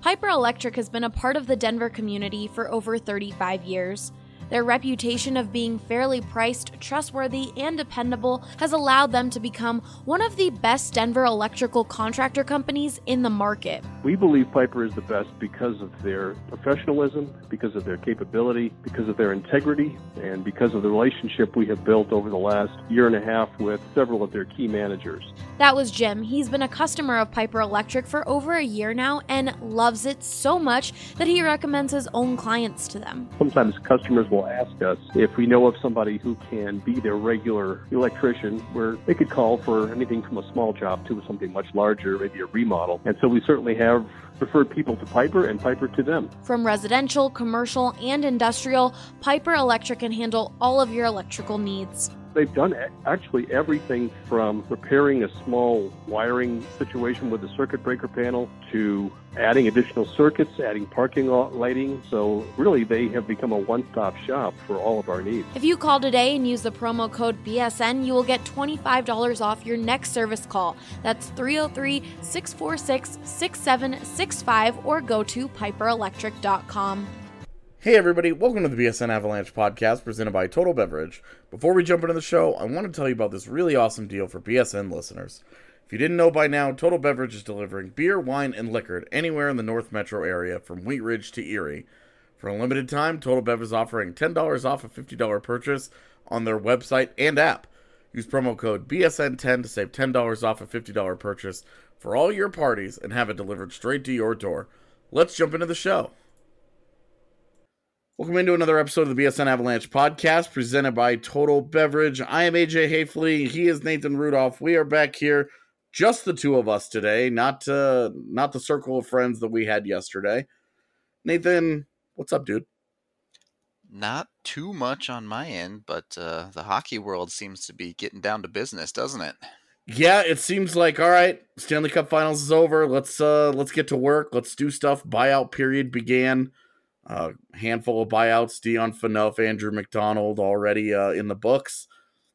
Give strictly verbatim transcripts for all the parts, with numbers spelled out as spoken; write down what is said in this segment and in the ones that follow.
Piper Electric has been a part of the Denver community for over thirty-five years. Their reputation of being fairly priced, trustworthy, and dependable has allowed them to become one of the best Denver electrical contractor companies in the market. We believe Piper is the best because of their professionalism, because of their capability, because of their integrity, and because of the relationship we have built over the last year and a half with several of their key managers. That was Jim. He's been a customer of Piper Electric for over a year now and loves it so much that he recommends his own clients to them. Sometimes customers will ask us if we know of somebody who can be their regular electrician, where they could call for anything from a small job to something much larger, maybe a remodel. And so we certainly have referred people to Piper and Piper to them. From residential, commercial, and industrial, Piper Electric can handle all of your electrical needs. They've done actually everything from repairing a small wiring situation with a circuit breaker panel to adding additional circuits, adding parking lot lighting. So really, they have become a one-stop shop for all of our needs. If you call today and use the promo code B S N, you will get twenty-five dollars off your next service call. That's three oh three, six four six, six seven six five or go to piper electric dot com. Hey everybody, welcome to the B S N Avalanche podcast presented by Total Beverage. Before we jump into the show, I want to tell you about this really awesome deal for B S N listeners. If you didn't know by now, Total Beverage is delivering beer, wine, and liquor anywhere in the North Metro area from Wheat Ridge to Erie. For a limited time, Total Bev is offering ten dollars off a fifty dollars purchase on their website and app. Use promo code B S N ten to save ten dollars off a fifty dollars purchase for all your parties and have it delivered straight to your door. Let's jump into the show. Welcome into another episode of the B S N Avalanche podcast presented by Total Beverage. I am A J Hafley. He is Nathan Rudolph. We are back here, just the two of us today, not uh, not the circle of friends that we had yesterday. Nathan, what's up, dude? Not too much on my end, but uh, the hockey world seems to be getting down to business, doesn't it? Yeah, it seems like, all right, Stanley Cup Finals is over. Let's uh, let's get to work. Let's do stuff. Buyout period began. A uh, handful of buyouts, Dion Phaneuf, Andrew McDonald already uh, in the books.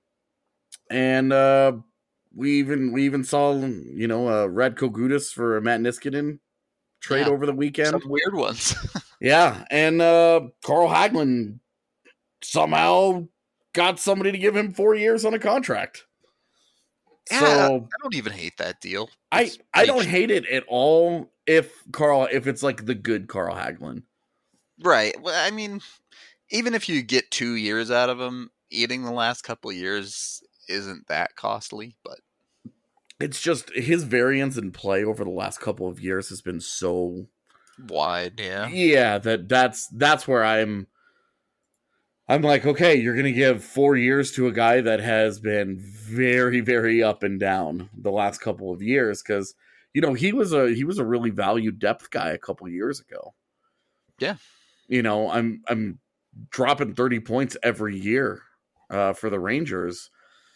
And uh, we even we even saw, you know, uh, Radko Gudas for Matt Niskanen trade yeah, over the weekend. Some weird ones. Yeah, and uh, Carl Hagelin somehow got somebody to give him four years on a contract. Yeah, so I don't even hate that deal. It's I, I don't hate it at all if Carl if it's like the good Carl Hagelin. Right. Well, I mean, even if you get two years out of him, eating the last couple of years isn't that costly, but it's just his variance in play over the last couple of years has been so wide. Yeah. Yeah. That that's, that's where I'm, I'm like, okay, you're going to give four years to a guy that has been very, very up and down the last couple of years. Cause you know, he was a, he was a really valued depth guy a couple of years ago. Yeah. You know, I'm I'm dropping thirty points every year uh, for the Rangers.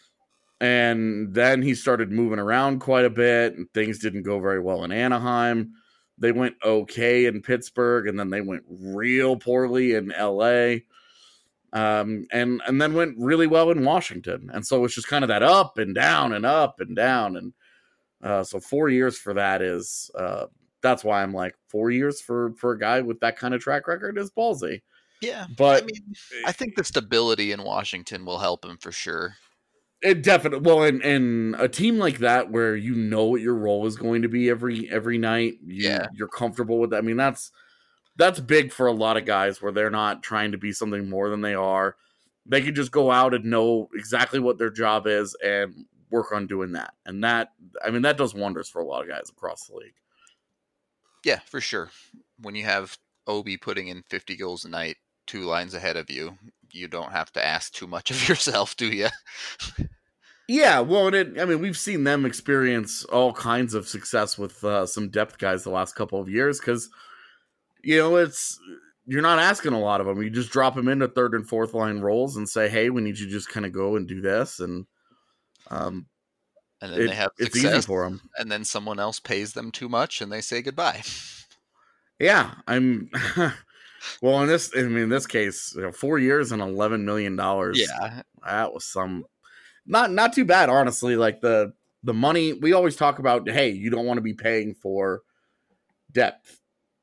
And then he started moving around quite a bit, and things didn't go very well in Anaheim. They went okay in Pittsburgh, and then they went real poorly in L A. Um, and, and then went really well in Washington. And so it's just kind of that up and down and up and down. And uh, so four years for that is... Uh, That's why I'm like, four years for, for a guy with that kind of track record is ballsy. Yeah. But I mean, I think the stability in Washington will help him for sure. It definitely, well, and, and a team like that where you know what your role is going to be every, every night. You, yeah. You're comfortable with that. I mean, that's, that's big for a lot of guys where they're not trying to be something more than they are. They can just go out and know exactly what their job is and work on doing that. And that, I mean, that does wonders for a lot of guys across the league. Yeah, for sure. When you have Obi putting in fifty goals a night, two lines ahead of you, you don't have to ask too much of yourself, do you? Yeah, well, and it, I mean, we've seen them experience all kinds of success with uh, some depth guys the last couple of years because, you know, it's you're not asking a lot of them. You just drop them into third and fourth line roles and say, hey, we need you to just kind of go and do this. And um And then it, they have it's success, easy for them. And then someone else pays them too much, and they say goodbye. Yeah, I'm. Well, in this, I mean, in this case, you know, four years and eleven million dollars. Yeah, that was some not not too bad, honestly. Like the the money we always talk about. Hey, you don't want to be paying for depth.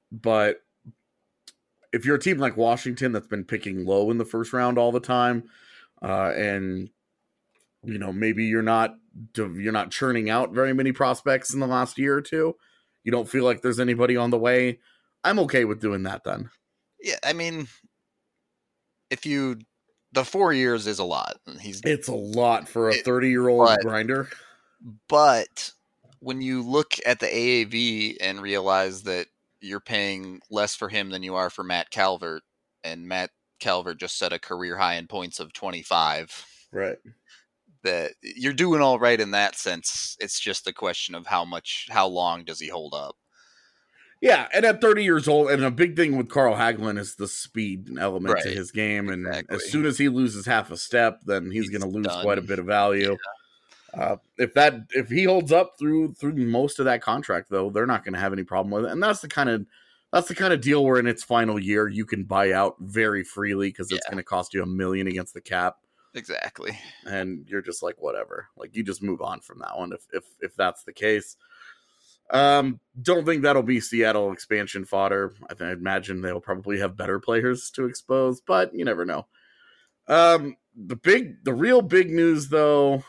but if you're a team like Washington that's been picking low in the first round all the time, uh, and you know maybe you're not you're not churning out very many prospects in the last year or two, you don't feel like there's anybody on the way, I'm okay with doing that then. Yeah, I mean, if you the four years is a lot. He's it's a lot for a thirty-year-old but, grinder. But when you look at the A A V and realize that you're paying less for him than you are for Matt Calvert, and Matt Calvert just set a career high in points of twenty-five. Right. That you're doing all right in that sense. It's just the question of how much, how long does he hold up? Yeah, and at thirty years old, and a big thing with Carl Hagelin is the speed element right. to his game, and exactly. as soon as he loses half a step, then he's, he's going to lose done. quite a bit of value. Yeah. Uh, if that if he holds up through through most of that contract, though, they're not going to have any problem with it, and that's the kind of that's the kind of deal where in its final year you can buy out very freely because it's yeah. going to cost you a million against the cap. Exactly, and you're just like whatever, like you just move on from that one if if if that's the case. Um, don't think that'll be Seattle expansion fodder. I think I imagine they'll probably have better players to expose, but you never know. Um, the big, the real big news though,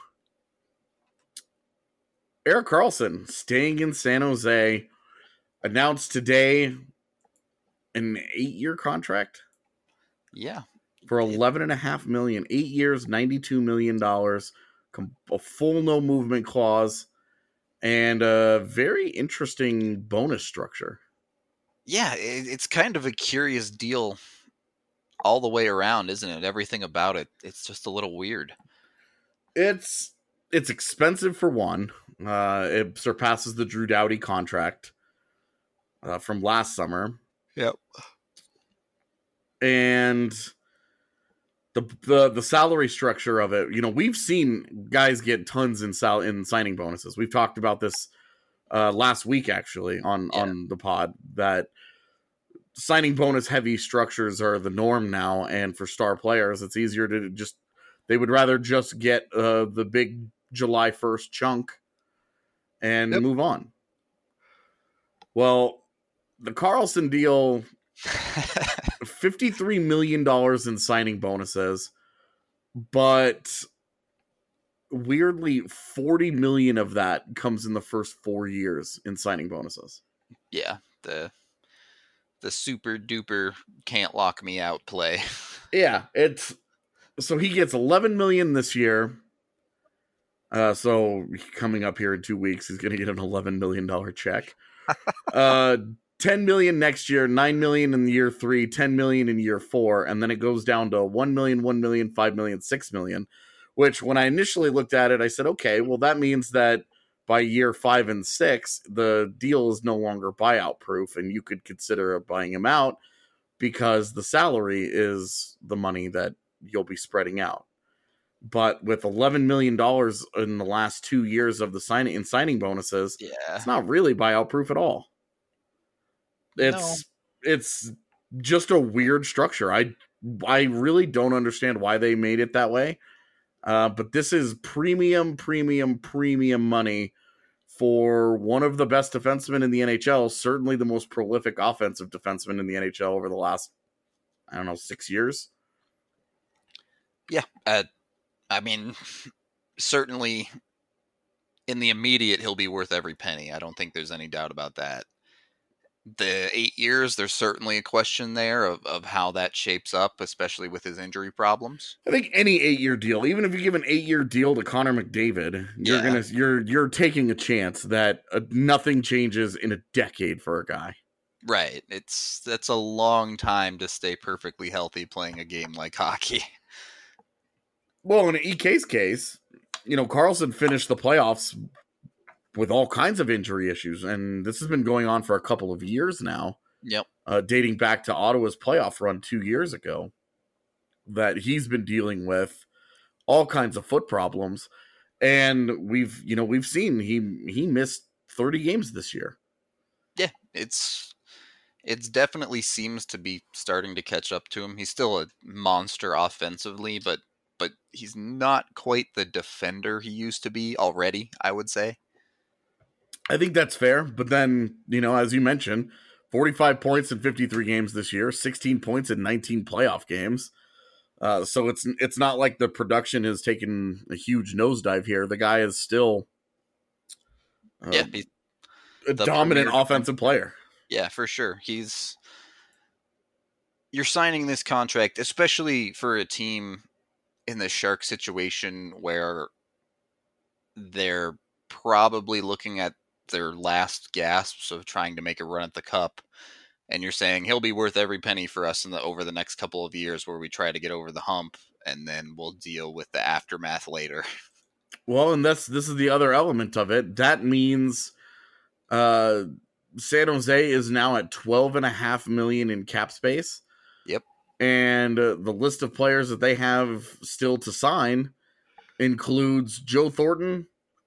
Erik Karlsson staying in San Jose, announced today an eight-year contract. Yeah, for eleven and a half million, eight years, ninety-two million dollars, a full no movement clause. And a very interesting bonus structure. Yeah, it's kind of a curious deal all the way around, isn't it? Everything about it, it's just a little weird. It's it's expensive for one. Uh, it surpasses the Drew Doughty contract uh, from last summer. Yep. And the the the salary structure of it, you know, we've seen guys get tons in sal- in signing bonuses. We've talked about this uh, last week, actually, on, yeah. on the pod, that signing bonus heavy structures are the norm now. And for star players, it's easier to just, they would rather just get uh, the big July first chunk and yep. move on. Well, the Karlsson deal... fifty-three million dollars in signing bonuses, but weirdly forty million dollars of that comes in the first four years in signing bonuses. Yeah, the the super duper can't lock me out play. Yeah, it's so he gets eleven million dollars this year. Uh, so coming up here in two weeks, he's going to get an eleven million dollars check. uh, ten million next year, nine million in year three, ten million in year four, and then it goes down to one million, one million, five million, six million, which when I initially looked at it, I said, okay, well, that means that by year five and six, the deal is no longer buyout proof, and you could consider buying him out because the salary is the money that you'll be spreading out. But with eleven million dollars in the last two years of the signing in signing bonuses, yeah. it's not really buyout proof at all. It's no. it's just a weird structure. I I really don't understand why they made it that way. Uh, but this is premium, premium, premium money for one of the best defensemen in the N H L, certainly the most prolific offensive defenseman in the N H L over the last, I don't know, six years. Yeah, uh, I mean, certainly in the immediate, he'll be worth every penny. I don't think there's any doubt about that. The eight years, there's certainly a question there of, of how that shapes up, especially with his injury problems. I think any eight-year deal, even if you give an eight-year deal to Connor McDavid, you're yeah. gonna you're you're taking a chance that uh, nothing changes in a decade for a guy. Right. It's that's a long time to stay perfectly healthy playing a game like hockey. Well, in E K's case, you know, Karlsson finished the playoffs with all kinds of injury issues, and this has been going on for a couple of years now. Yep. Uh, dating back to Ottawa's playoff run two years ago, that he's been dealing with all kinds of foot problems, and we've, you know, we've seen he he missed thirty games this year. Yeah, it's it's definitely seems to be starting to catch up to him. He's still a monster offensively, but but he's not quite the defender he used to be already, I would say. I think that's fair, but then, you know, as you mentioned, forty-five points in fifty-three games this year, sixteen points in nineteen playoff games. Uh, so it's it's not like the production has taken a huge nosedive here. The guy is still uh, yeah, a dominant premier offensive player. Yeah, for sure. He's you're signing this contract, especially for a team in the Shark situation where they're probably looking at their last gasps of trying to make a run at the cup. And you're saying he'll be worth every penny for us in the over the next couple of years where we try to get over the hump, and then we'll deal with the aftermath later. Well, and that's this is the other element of it. That means uh, San Jose is now at twelve and a half million in cap space. Yep. And uh, the list of players that they have still to sign includes Joe Thornton,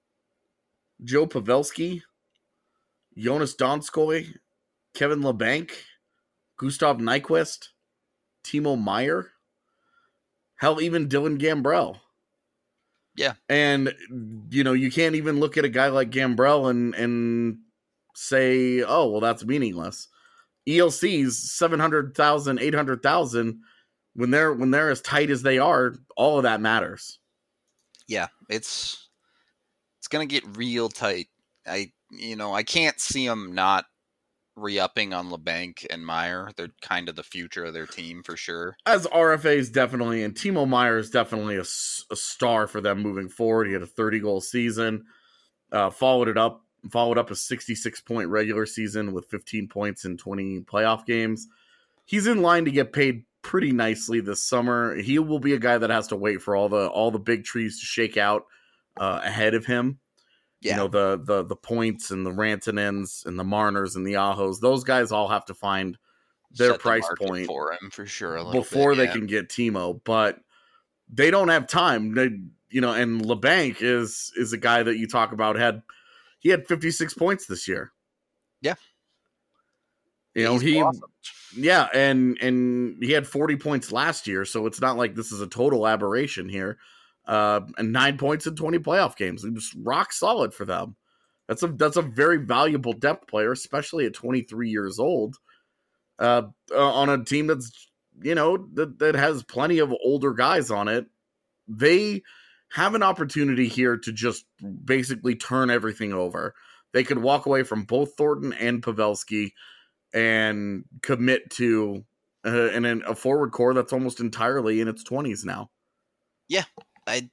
Joe Pavelski, Jonas Donskoy, Kevin Labanc, Gustav Nyquist, Timo Meier, hell, even Dylan Gambrell. Yeah. And, you know, you can't even look at a guy like Gambrell and, and say, oh, well, that's meaningless. E L C's seven hundred thousand, eight hundred thousand, when they're, when they're as tight as they are, all of that matters. Yeah, it's it's going to get real tight. I, you know, I can't see them not re-upping on Labanc and Meier. They're kind of the future of their team for sure. As R F As definitely, and Timo Meier is definitely a, a star for them moving forward. He had a thirty-goal season, uh, followed it up, followed up a sixty-six point regular season with fifteen points in twenty playoff games. He's in line to get paid pretty nicely this summer. He will be a guy that has to wait for all the all the big trees to shake out uh, ahead of him. Yeah. You know, the the the points and the Rantanens and the Marners and the Ahos, those guys all have to find their Set the price market point for him for sure before bit, they yeah. can get Timo, but they don't have time. They, you know, and Labanc is is a guy that you talk about had he had fifty-six points this year. Yeah. You know, He's he awesome. Yeah, and and he had forty points last year, so it's not like this is a total aberration here. Uh, and nine points in twenty playoff games. It was rock solid for them. That's a that's a very valuable depth player, especially at twenty-three years old. Uh, uh, on a team that's, you know, that, that has plenty of older guys on it. They have an opportunity here to just basically turn everything over. They could walk away from both Thornton and Pavelski and commit to uh, an, a forward core that's almost entirely in its twenties now. Yeah. I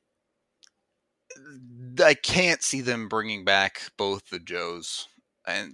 I can't see them bringing back both the Joes, and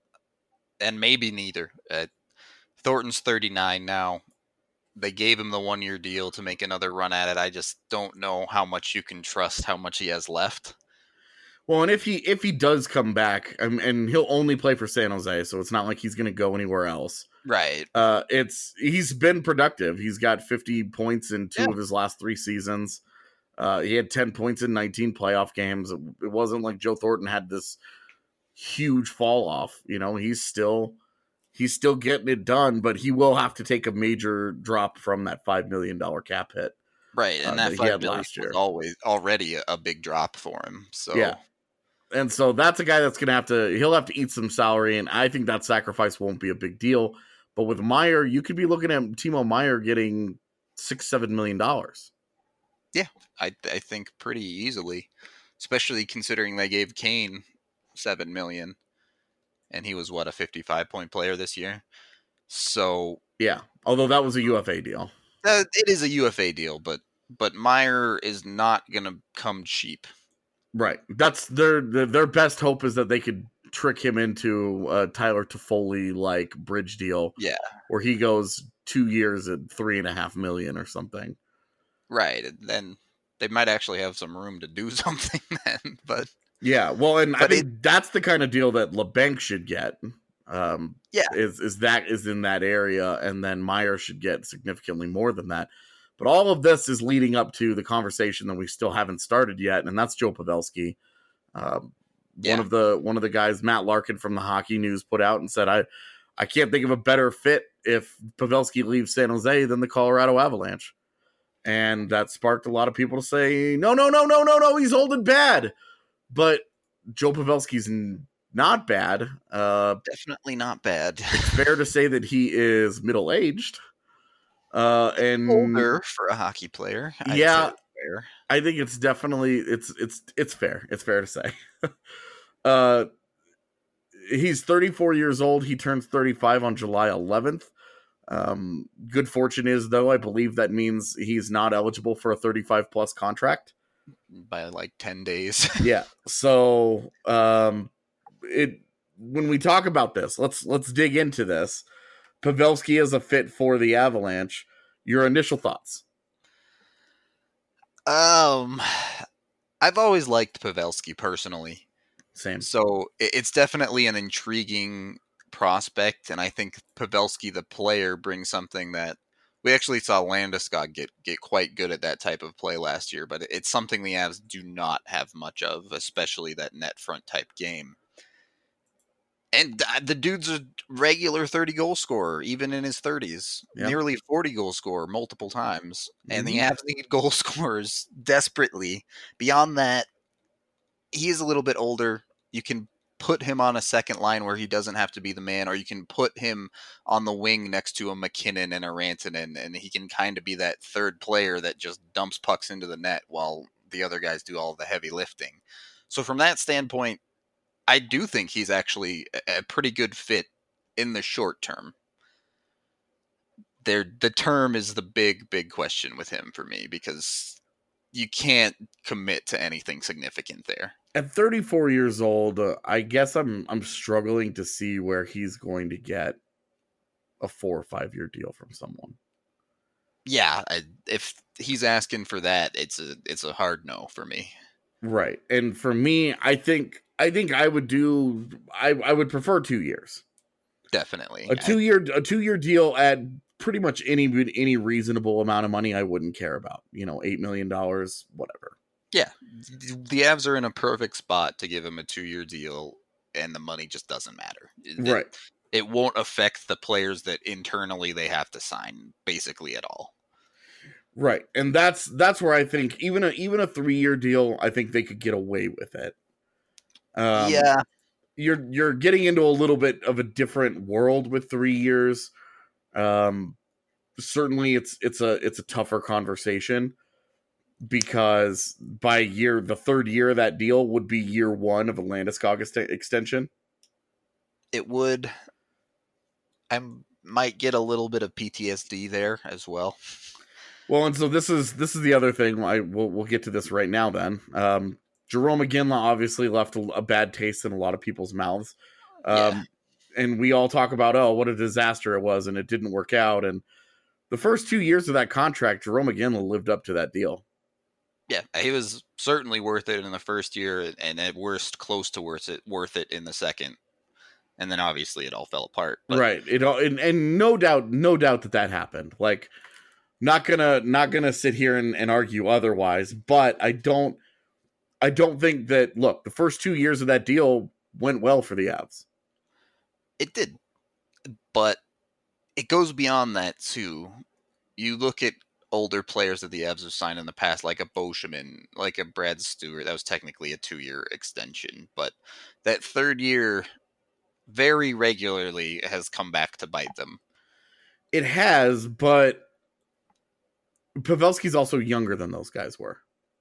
and maybe neither. Uh, Thornton's thirty-nine now. They gave him the one-year deal to make another run at it. I just don't know how much you can trust how much he has left. Well, and if he if he does come back, um, and he'll only play for San Jose, so it's not like he's going to go anywhere else. Right. Uh, it's he's been productive. He's got fifty points in two Yeah. of his last three seasons. Uh, he had ten points in nineteen playoff games. It, it wasn't like Joe Thornton had this huge fall off. You know, he's still he's still getting it done, but he will have to take a major drop from that five million dollar cap hit. Right, and uh, that that he five had million last year. was always already a, a big drop for him. So Yeah. And so that's a guy that's going to have to, he'll have to eat some salary, and I think that sacrifice won't be a big deal. But with Meier, you could be looking at Timo Meier getting six, seven million dollars. Yeah, I I think pretty easily, especially considering they gave Kane seven million, and he was what, a fifty-five point player this year. So Yeah, although that was a U F A deal. uh, it is a U F A deal, but but Meier is not going to come cheap. Right. That's their their their best hope is that they could trick him into a Tyler Toffoli like bridge deal. Yeah, where he goes two years at three and a half million or something. right. And then they might actually have some room to do something then. But Yeah, well, and I But think that's the kind of deal that Labanc should get. Um, Yeah. is is that is in that area, and then Meier should get significantly more than that. But all of this is leading up to the conversation that we still haven't started yet, and that's Joe Pavelski. Um, Yeah. One of the one of the guys, Matt Larkin from the Hockey News, put out and said, "I I can't think of a better fit if Pavelski leaves San Jose than the Colorado Avalanche." And that sparked a lot of people to say, "No, no, no, no, no, no, he's old and bad." But Joe Pavelski's not bad. Uh, Definitely not bad. It's fair to say that he is middle aged. Uh, and older for a hockey player. I'd yeah, say fair. I think it's definitely it's it's it's fair. It's fair to say. uh, he's thirty-four years old. He turns thirty-five on July eleventh. Um, good fortune is though, I believe that means he's not eligible for a thirty-five plus contract by like ten days. Yeah. So, um, it when we talk about this, let's let's dig into this. Pavelski is a fit for the Avalanche. Your initial thoughts? Um, I've always liked Pavelski personally. Same. So it's definitely an intriguing prospect, and I think Pavelski, the player, brings something that we actually saw Landeskog get get quite good at that type of play last year. But it's something the Avs do not have much of, especially that net front type game. And the dude's a regular thirty goal scorer, even in his thirties. Yep. Nearly forty goal scorer multiple times. And mm-hmm. the Avs need goal scorers desperately. Beyond that, he is a little bit older. You can put him on a second line where he doesn't have to be the man, or you can put him on the wing next to a McKinnon and a Rantanen, and he can kind of be that third player that just dumps pucks into the net while the other guys do all the heavy lifting. So from that standpoint, I do think he's actually a pretty good fit in the short term. There, the term is the big, big question with him for me, because you can't commit to anything significant there. At thirty-four years old, uh, I guess I'm I'm struggling to see where he's going to get a four or five year deal from someone. Yeah, I, if he's asking for that, it's a it's a hard no for me. Right, and for me, I think. I think I would do. I, I would prefer two years. Definitely a two year a two year deal at pretty much any any reasonable amount of money. I wouldn't care about. You know, eight million dollars, whatever. Yeah, the Avs are in a perfect spot to give him a two year deal, and the money just doesn't matter. Right. It, it won't affect the players that internally they have to sign basically at all. Right, and that's that's where I think even a even a three year deal, I think they could get away with it. Um, yeah, you're you're getting into a little bit of a different world with three years. Um, certainly, it's it's a it's a tougher conversation, because by year the third year of that deal would be year one of a Landeskog ex- extension. It would. I might get a little bit of P T S D there as well. Well, and so this is this is the other thing. I we'll we'll get to this right now. Then. Um, Jarome Iginla obviously left a, a bad taste in a lot of people's mouths. Um, yeah. And we all talk about, oh, what a disaster it was, and it didn't work out. And the first two years of that contract, Jarome Iginla lived up to that deal. Yeah, he was certainly worth it in the first year, and at worst, close to worth it, worth it in the second. And then obviously it all fell apart. But... Right. It all, and, and no doubt, no doubt that that happened. Like, not gonna, not gonna sit here and, and argue otherwise, but I don't, I don't think that, look, the first two years of that deal went well for the Avs. It did. But it goes beyond that, too. You look at older players that the Avs have signed in the past, like a Boschman, like a Brad Stewart. That was technically a two-year extension. But that third year very regularly has come back to bite them. It has, but Pavelski's also younger than those guys were.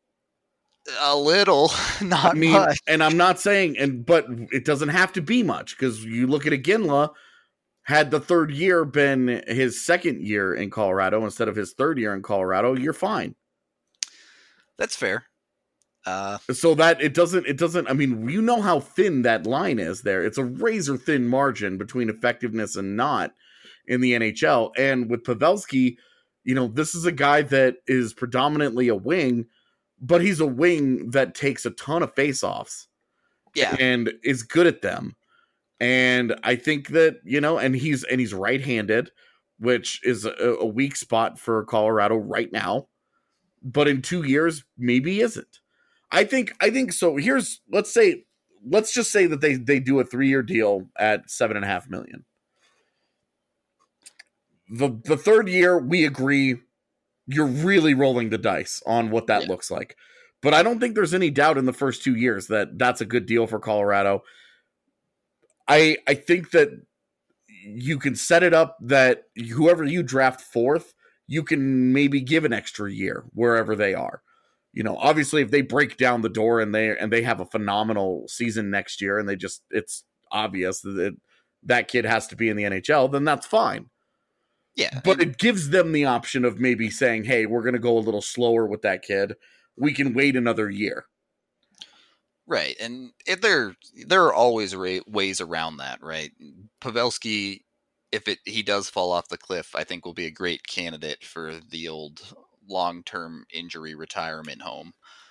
A little, not I mean, much. And I'm not saying, and but it doesn't have to be much, because you look at Iginla, had the third year been his second year in Colorado instead of his third year in Colorado, you're fine. That's fair. Uh, so that it doesn't, it doesn't, I mean, you know how thin that line is there. It's a razor thin margin between effectiveness and not in the N H L. And with Pavelski, you know, this is a guy that is predominantly a wing, but he's a wing that takes a ton of faceoffs, yeah, and is good at them. And I think that, you know, and he's and he's right-handed, which is a, a weak spot for Colorado right now. But in two years, maybe he isn't. I think I think so. Here's let's say let's just say that they they do a three-year deal at seven and a half million. The the third year, we agree. You're really rolling the dice on what that yeah. looks like. But I don't think there's any doubt in the first two years that that's a good deal for Colorado. I I think that you can set it up that whoever you draft fourth, you can maybe give an extra year wherever they are. You know, obviously if they break down the door and they and they have a phenomenal season next year and they just it's obvious that it, that kid has to be in the N H L, then that's fine. Yeah. But and- it gives them the option of maybe saying, hey, we're going to go a little slower with that kid. We can wait another year. Right, and if there there are always ra- ways around that, right? Pavelski, if it he does fall off the cliff, I think will be a great candidate for the old long-term injury retirement home.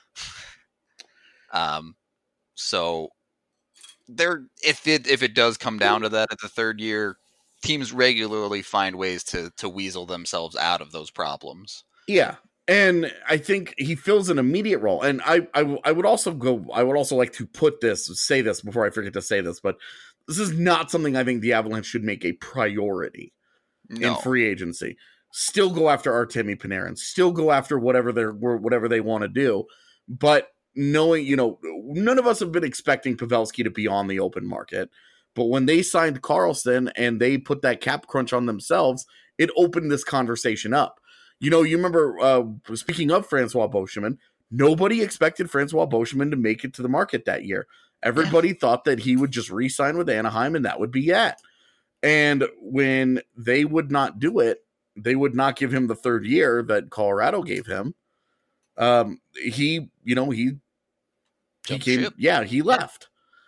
um, so there, if it if it does come down to that at the third year, teams regularly find ways to to weasel themselves out of those problems. Yeah. And I think he fills an immediate role. And I, I, I would also go, I would also like to put this, say this before I forget to say this, but this is not something I think the Avalanche should make a priority No. in free agency. Still go after Artemi Panarin, still go after whatever they're, whatever they want to do. But knowing, you know, none of us have been expecting Pavelski to be on the open market. But when they signed Karlsson and they put that cap crunch on themselves, it opened this conversation up. You know, you remember, uh, speaking of Francois Beauchemin, nobody expected Francois Beauchemin to make it to the market that year. Everybody yeah. thought that he would just re-sign with Anaheim and that would be it. And when they would not do it, they would not give him the third year that Colorado gave him. Um, he, you know, he, he came, ship. yeah, he left.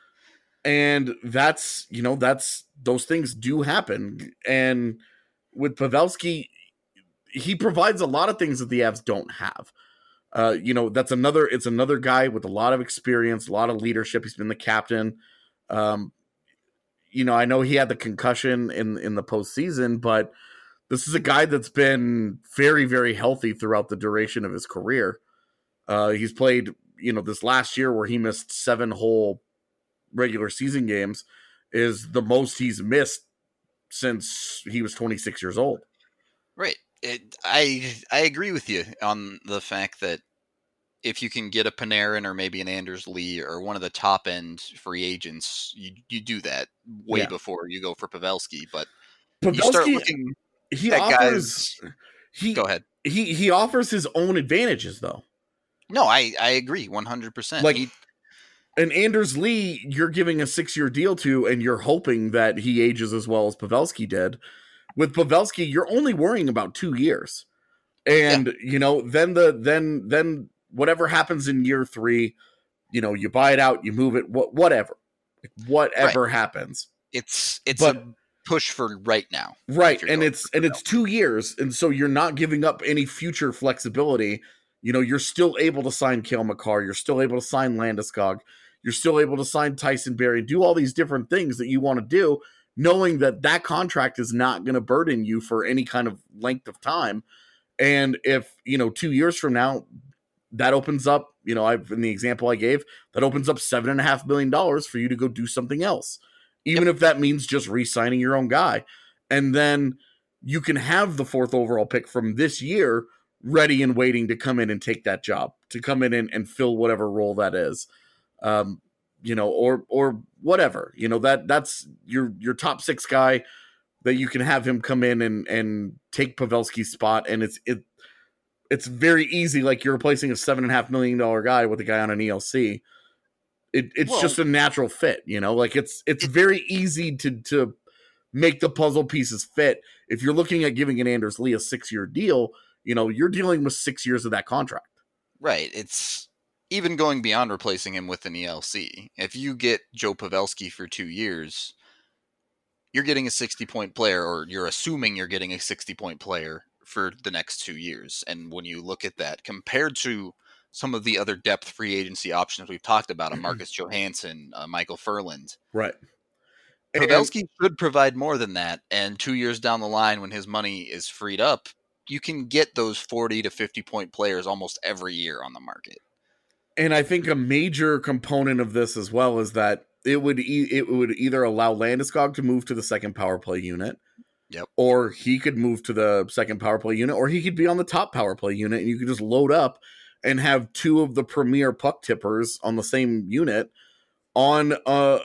And that's, you know, that's, those things do happen. And with Pavelski, he provides a lot of things that the Avs don't have. Uh, you know, that's another, it's another guy with a lot of experience, a lot of leadership. He's been the captain. Um, you know, I know he had the concussion in, in the postseason, but this is a guy that's been very, very healthy throughout the duration of his career. Uh, he's played, you know, this last year where he missed seven whole regular season games is the most he's missed since he was twenty-six years old. Right. It, I I agree with you on the fact that if you can get a Panarin or maybe an Anders Lee or one of the top end free agents, you you do that way yeah. before you go for Pavelski. But Pavelski, you start looking he at offers, guys. He, go ahead. He he offers his own advantages though. No, I, I agree one hundred percent. Like he, and Anders Lee, you're giving a six year deal to, and you're hoping that he ages as well as Pavelski did. With Pavelski, you're only worrying about two years. And, yeah. you know, then the then then whatever happens in year three, you know, you buy it out, you move it, wh- whatever. Whatever right. happens. It's it's but, a push for right now. Right. And it's and it's two years. And so you're not giving up any future flexibility. You know, you're still able to sign Cale Makar, you're still able to sign Landeskog, you're still able to sign Tyson Barrie, do all these different things that you want to do, knowing that that contract is not going to burden you for any kind of length of time. And if, you know, two years from now, that opens up, you know, I've in the example I gave, that opens up seven and a half million dollars for you to go do something else, even yep. if that means just re-signing your own guy. And then you can have the fourth overall pick from this year ready and waiting to come in and take that job, to come in and, and fill whatever role that is. Um, you know, or, or whatever, you know, that that's your, your top six guy that you can have him come in and, and take Pavelski's spot. And it's, it, it's very easy. Like you're replacing a seven and a half million dollar guy with a guy on an E L C. It, it's well, just a natural fit, you know, like it's, it's very easy to, to make the puzzle pieces fit. If you're looking at giving an Anders Lee a six year deal, you know, you're dealing with six years of that contract. Right. It's, even going beyond replacing him with an E L C, if you get Joe Pavelski for two years, you're getting a sixty-point player, or you're assuming you're getting a sixty-point player for the next two years. And when you look at that, compared to some of the other depth free agency options we've talked about, a Marcus Johansson, uh, Michael Furland, right? Pavelski and- should provide more than that. And two years down the line, when his money is freed up, you can get those forty to fifty point players almost every year on the market. And I think a major component of this as well is that it would e- it would either allow Landeskog to move to the second power play unit, yep, or he could move to the second power play unit, or he could be on the top power play unit, and you could just load up and have two of the premier puck tippers on the same unit on uh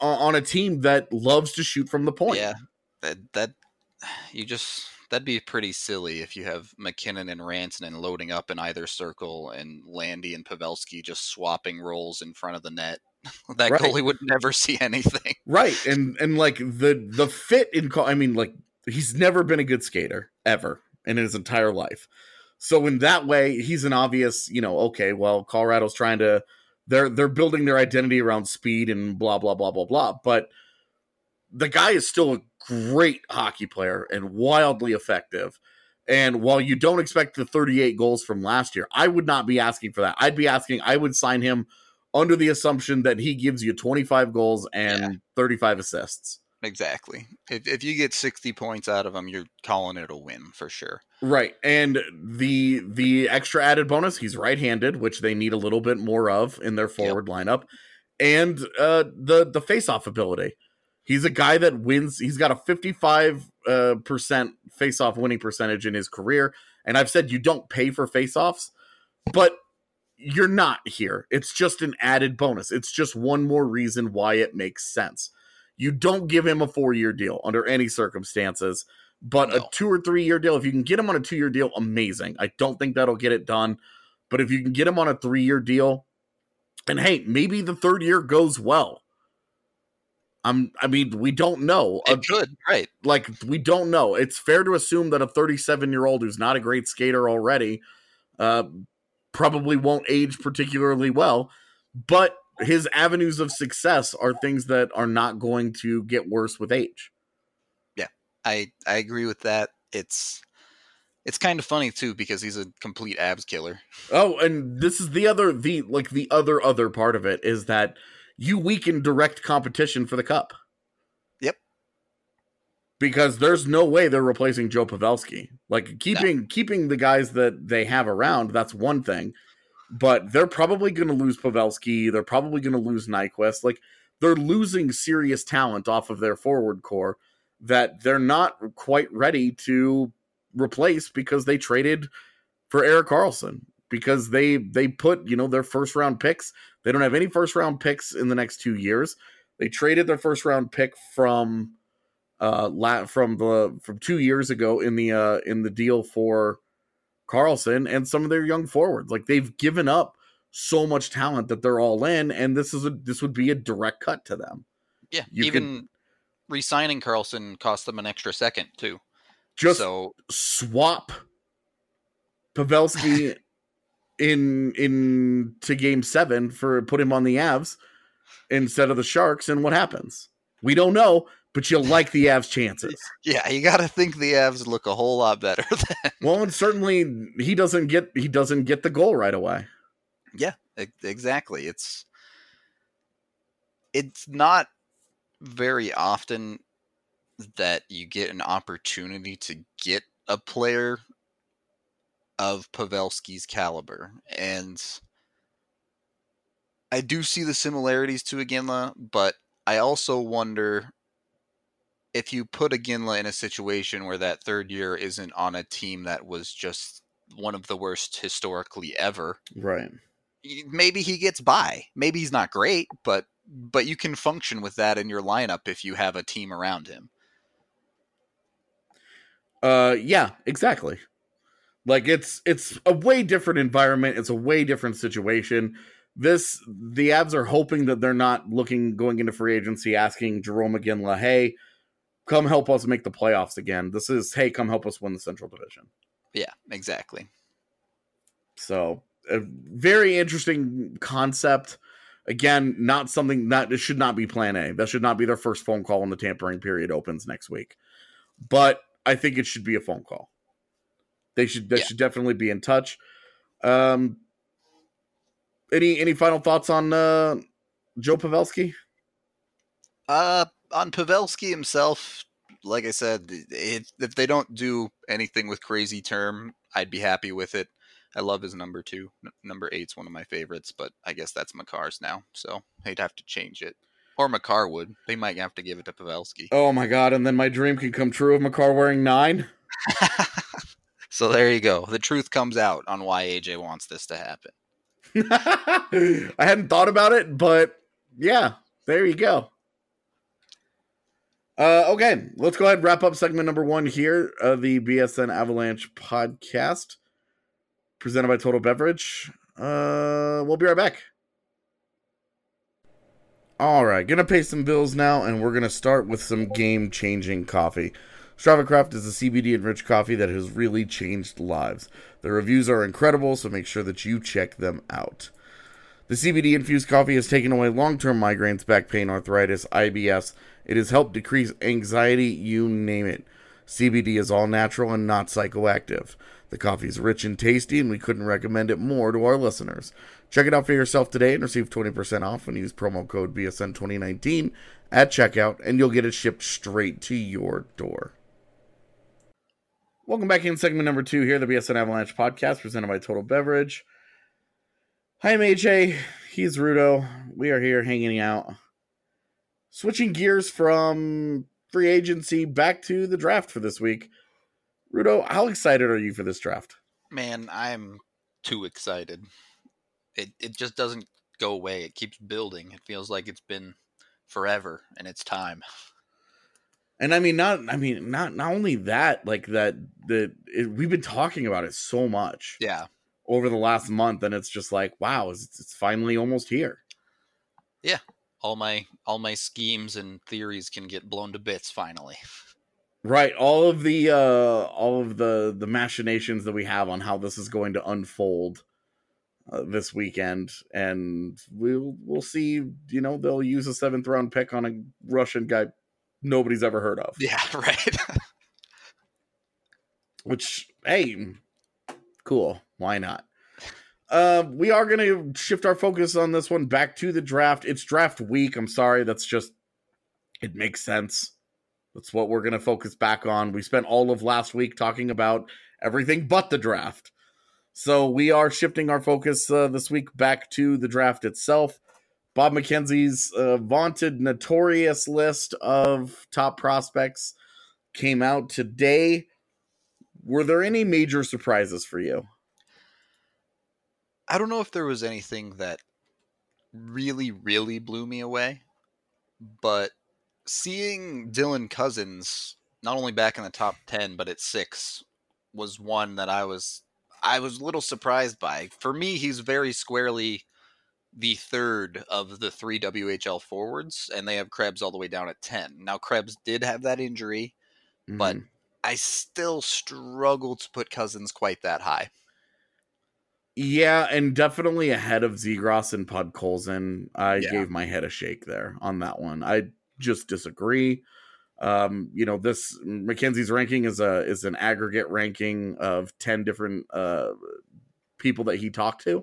on a team that loves to shoot from the point. Yeah, that that you just that'd be pretty silly if you have McKinnon and Rantanen loading up in either circle and Landy and Pavelski just swapping roles in front of the net. That Right. goalie would never see anything. Right. And and like the the fit in I mean, like, he's never been a good skater ever in his entire life. So in that way, he's an obvious, you know, okay, well, Colorado's trying to they're they're building their identity around speed and blah blah blah blah blah. But the guy is still a great hockey player and wildly effective. And while you don't expect the thirty-eight goals from last year, I would not be asking for that. I'd be asking, I would sign him under the assumption that he gives you twenty-five goals and yeah. thirty-five assists. Exactly. If if you get sixty points out of him, you're calling it a win for sure. Right. And the the extra added bonus, he's right-handed, which they need a little bit more of in their forward yep. lineup. And uh, the, the face-off ability. He's a guy that wins. He's got a fifty-five uh, percent face-off winning percentage in his career. And I've said you don't pay for face-offs, but you're not here. It's just an added bonus. It's just one more reason why it makes sense. You don't give him a four-year deal under any circumstances, but no. a two or three-year deal, if you can get him on a two-year deal, amazing. I don't think that'll get it done, but if you can get him on a three-year deal, and hey, maybe the third year goes well. I'm, I mean, we don't know. It could, right. Like, we don't know. It's fair to assume that a thirty-seven-year-old who's not a great skater already uh, probably won't age particularly well, but his avenues of success are things that are not going to get worse with age. Yeah, I, I agree with that. It's it's kind of funny too because he's a complete abs killer. Oh, and this is the other the like the other other part of it is that you weaken direct competition for the cup. Yep. Because there's no way they're replacing Joe Pavelski. Like keeping no. keeping the guys that they have around, that's one thing. But they're probably going to lose Pavelski. They're probably going to lose Nyquist. Like, they're losing serious talent off of their forward core that they're not quite ready to replace because they traded for Erik Karlsson. Because they they put, you know, their first round picks. They don't have any first round picks in the next two years. They traded their first round pick from uh la- from the from two years ago in the uh in the deal for Karlsson and some of their young forwards. Like, they've given up so much talent that they're all in, and this is a this would be a direct cut to them. Yeah, you even could, re-signing Karlsson cost them an extra second too. Just so swap Pavelski in in to game seven for put him on the Avs instead of the Sharks, and what happens? We don't know. But you like the Avs' chances. Yeah, you got to think the Avs look a whole lot better than. Well, and certainly he doesn't get he doesn't get the goal right away. Yeah, exactly. It's it's not very often that you get an opportunity to get a player of Pavelski's caliber, and I do see the similarities to Iginla, but I also wonder if you put Iginla in a situation where that third year isn't on a team that was just one of the worst historically ever, right? Maybe he gets by. Maybe he's not great, but but you can function with that in your lineup if you have a team around him. Uh, yeah, exactly. Like it's it's a way different environment. It's a way different situation. This the Avs are hoping that they're not looking going into free agency asking Jarome Iginla, hey, come help us make the playoffs again. This is, hey, come help us win the Central Division. Yeah, exactly. So, a very interesting concept. Again, not something that it should not be plan A. That should not be their first phone call when the tampering period opens next week. But I think it should be a phone call. They should they yeah. should definitely be in touch. Um, any any final thoughts on uh, Joe Pavelski? Uh, on Pavelski himself, like I said, it, if they don't do anything with crazy term, I'd be happy with it. I love his number two. N- number eight's one of my favorites, but I guess that's Makar's now, so they'd have to change it. Or Makar would. They might have to give it to Pavelski. Oh my god, and then my dream can come true of Makar wearing nine? So there you go. The truth comes out on why A J wants this to happen. I hadn't thought about it, but yeah, there you go. Uh, okay, let's go ahead and wrap up segment number one here of the B S N Avalanche podcast, presented by Total Beverage. Uh, we'll be right back. All right, gonna pay some bills now, and we're gonna start with some game-changing coffee. Strava Craft is a C B D-enriched coffee that has really changed lives. The reviews are incredible, so make sure that you check them out. The C B D-infused coffee has taken away long-term migraines, back pain, arthritis, I B S. It has helped decrease anxiety, you name it. C B D is all natural and not psychoactive. The coffee is rich and tasty, and we couldn't recommend it more to our listeners. Check it out for yourself today and receive twenty percent off when you use promo code B S N twenty nineteen at checkout, and you'll get it shipped straight to your door. Welcome back in segment number two here, the B S N Avalanche podcast, presented by Total Beverage. Hi, I'm A J. He's Rudo. We are here hanging out. Switching gears from free agency back to the draft for this week. Rudo, how excited are you for this draft? Man, I'm too excited. It it just doesn't go away. It keeps building. It feels like it's been forever, and it's time. And I mean, not I mean, not not only that, like that that it, we've been talking about it so much, yeah, over the last month, and it's just like, wow, it's, it's finally almost here. Yeah, all my all my schemes and theories can get blown to bits finally. Right, all of the uh, all of the the machinations that we have on how this is going to unfold uh, this weekend, and we'll we'll see. You know, they'll use a seventh round pick on a Russian guy nobody's ever heard of. Yeah, right. Which, hey, cool. Why not? Uh, we are going to shift our focus on this one back to the draft. It's draft week. I'm sorry. That's just, it makes sense. That's what we're going to focus back on. We spent all of last week talking about everything but the draft. So we are shifting our focus uh, this week back to the draft itself. Bob McKenzie's uh, vaunted, notorious list of top prospects came out today. Were there any major surprises for you? I don't know if there was anything that really, really blew me away, but seeing Dylan Cousins not only back in the top ten, but at six was one that I was I was a little surprised by. For me, he's very squarely the third of the three W H L forwards, and they have Krebs all the way down at ten. Now, Krebs did have that injury, mm-hmm. but I still struggle to put Cousins quite that high. Yeah, and definitely ahead of Zegras and Podkolzin. I yeah. gave my head a shake there on that one. I just disagree. Um, you know, this McKenzie's ranking is a is an aggregate ranking of ten different uh, people that he talked to.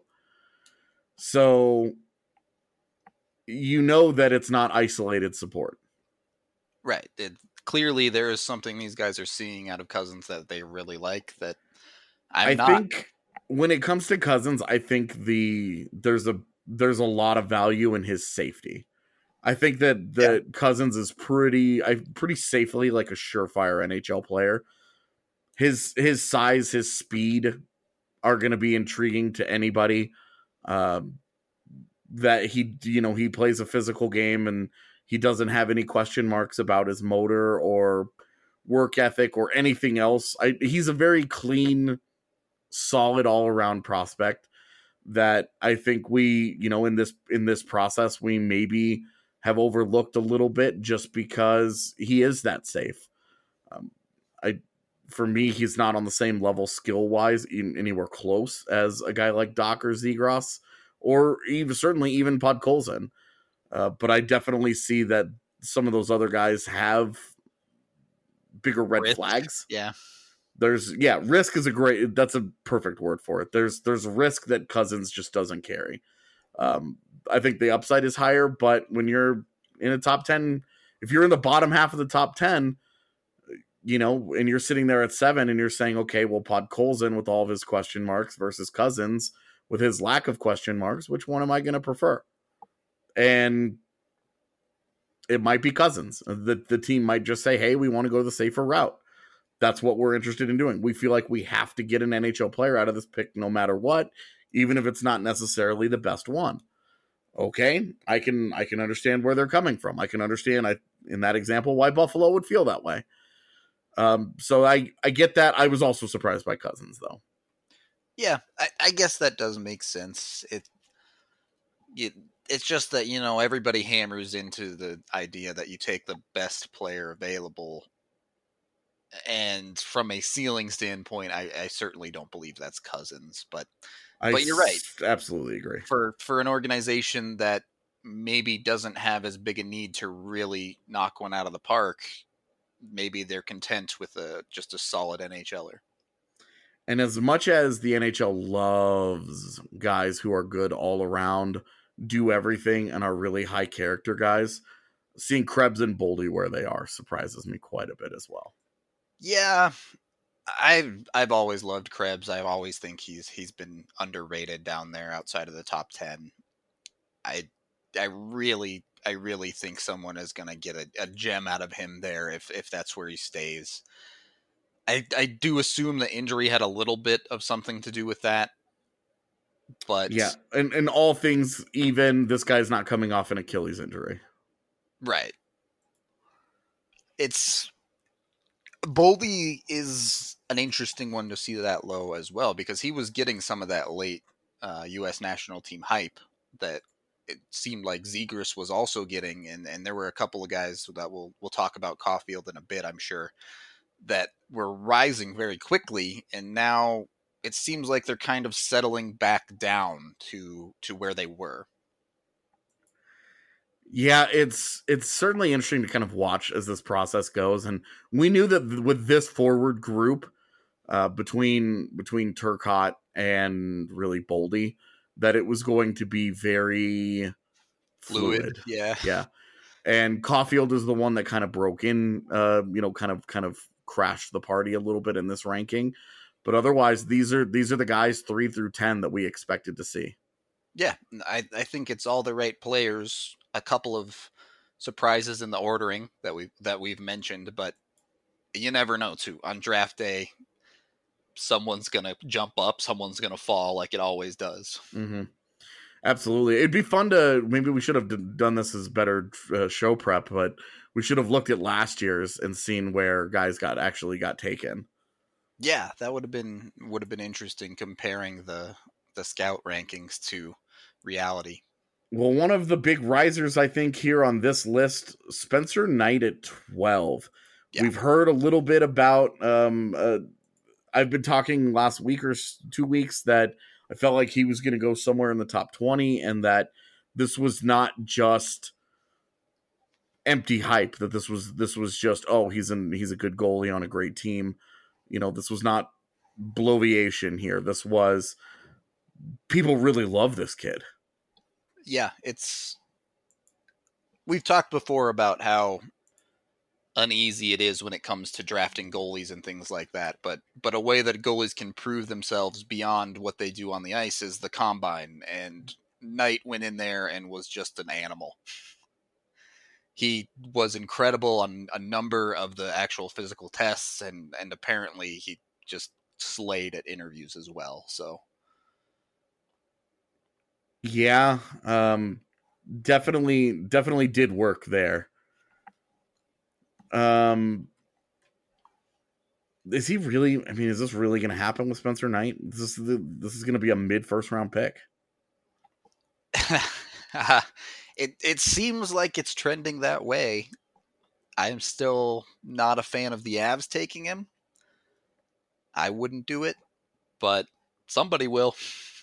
So you know that it's not isolated support. Right. It, clearly there is something these guys are seeing out of Cousins that they really like that I'm I not. think when it comes to Cousins, I think the there's a there's a lot of value in his safety. I think that that yeah. Cousins is pretty I pretty safely like a surefire N H L player. His his size, his speed are going to be intriguing to anybody. Um, that he, you know, he plays a physical game and he doesn't have any question marks about his motor or work ethic or anything else. I, he's a very clean, solid all around prospect that I think we, you know, in this, in this process, we maybe have overlooked a little bit just because he is that safe. Um, I, for me, he's not on the same level skill wise, anywhere close as a guy like Doc or Zegras, or even certainly even Podkolzin. Uh, but I definitely see that some of those other guys have bigger red risk. flags. Yeah. There's yeah, risk is a great, that's a perfect word for it. There's, there's risk that Cousins just doesn't carry. Um, I think the upside is higher, but when you're in a top ten, if you're in the bottom half of the top ten, you know, and you're sitting there at seven and you're saying, okay, well, Podkolzin with all of his question marks versus Cousins with his lack of question marks, which one am I going to prefer? And it might be Cousins. The, the team might just say, hey, we want to go the safer route. That's what we're interested in doing. We feel like we have to get an N H L player out of this pick no matter what, even if it's not necessarily the best one. Okay, I can I can understand where they're coming from. I can understand. I in that example why Buffalo would feel that way. Um, so I, I get that. I was also surprised by Cousins, though. Yeah, I, I guess that does make sense. It, it It's just that, you know, everybody hammers into the idea that you take the best player available. And from a ceiling standpoint, I, I certainly don't believe that's Cousins. But I but you're right. s- absolutely agree. For for an organization that maybe doesn't have as big a need to really knock one out of the park, maybe they're content with a just a solid NHLer. And as much as the N H L loves guys who are good all around, do everything, and are really high character guys, seeing Krebs and Boldy where they are surprises me quite a bit as well. Yeah, I've I've always loved Krebs. I always think he's he's been underrated down there outside of the top ten. I I really I really think someone is going to get a, a gem out of him there if if that's where he stays. I I do assume the injury had a little bit of something to do with that. But yeah, and, and all things even, this guy's not coming off an Achilles injury. Right. It's Boldy is an interesting one to see that low as well, because he was getting some of that late uh, U S national team hype that it seemed like Zegras was also getting, and, and there were a couple of guys that we'll we'll talk about Caulfield in a bit, I'm sure, that were rising very quickly, and now it seems like they're kind of settling back down to to where they were. Yeah, it's it's certainly interesting to kind of watch as this process goes, and we knew that with this forward group uh, between between Turcotte and really Boldy, that it was going to be very fluid. Fluid, yeah, yeah. And Caulfield is the one that kind of broke in, uh, you know, kind of kind of crashed the party a little bit in this ranking, but otherwise, these are these are the guys three through ten that we expected to see. Yeah, I I think it's all the right players. A couple of surprises in the ordering that we that we've mentioned, but you never know too. On draft day, someone's gonna jump up, someone's gonna fall, like it always does. Mm-hmm. Absolutely, it'd be fun to maybe we should have d- done this as better uh, show prep, but we should have looked at last year's and seen where guys got actually got taken. Yeah, that would have been would have been interesting comparing the the scout rankings to reality. Well, one of the big risers, I think, here on this list, Spencer Knight at twelve. Yeah. We've heard a little bit about, um, uh, I've been talking last week or two weeks that I felt like he was going to go somewhere in the top twenty, and that this was not just empty hype, that this was this was just, oh, he's an, he's a good goalie on a great team. You know, this was not bloviation here. This was, people really love this kid. Yeah, it's, we've talked before about how uneasy it is when it comes to drafting goalies and things like that, but but a way that goalies can prove themselves beyond what they do on the ice is the combine, and Knight went in there and was just an animal. He was incredible on a number of the actual physical tests, and and apparently he just slayed at interviews as well, so yeah, um, definitely, definitely did work there. Um, is he really? I mean, is this really going to happen with Spencer Knight? This is the, this is going to be a mid first round pick. it it seems like it's trending that way. I am still not a fan of the Avs taking him. I wouldn't do it, but somebody will.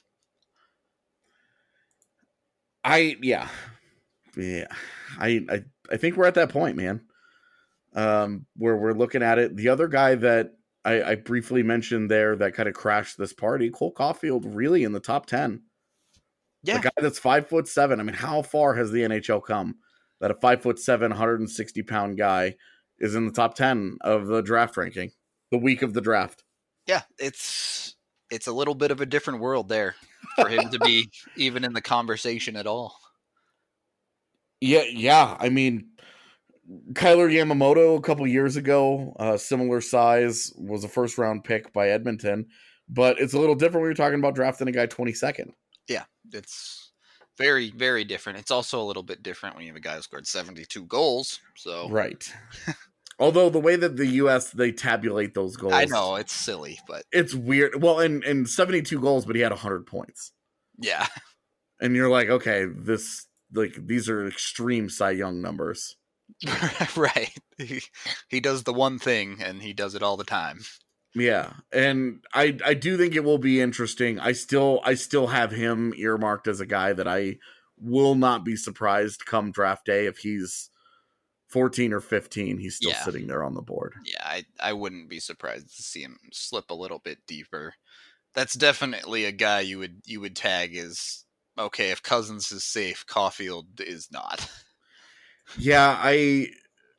I yeah, yeah. I I I think we're at that point, man. Um, where we're looking at it. The other guy that I, I briefly mentioned there that kind of crashed this party, Cole Caulfield, really in the top ten. Yeah, the guy that's five foot seven. I mean, how far has the N H L come that a five foot seven, one hundred sixty pound guy is in the top ten of the draft ranking, the week of the draft? Yeah, it's it's a little bit of a different world there for him to be even in the conversation at all. Yeah, yeah. I mean, Kyler Yamamoto a couple years ago, uh, similar size, was a first round pick by Edmonton, but it's a little different when you're talking about drafting a guy twenty-second. Yeah, it's very, very different. It's also a little bit different when you have a guy who scored seventy-two goals. So right. Although the way that the U S they tabulate those goals, I know it's silly, but it's weird. Well, and and seventy-two goals, but he had one hundred points. Yeah, and you're like, okay, this like these are extreme Cy Young numbers. Right. He, he does the one thing, and he does it all the time. Yeah, and I I do think it will be interesting. I still I still have him earmarked as a guy that I will not be surprised come draft day if he's fourteen or fifteen. He's still Yeah. sitting there on the board. Yeah, I, I wouldn't be surprised to see him slip a little bit deeper. That's definitely a guy you would you would tag as, okay, if Cousins is safe, Caulfield is not. Yeah, I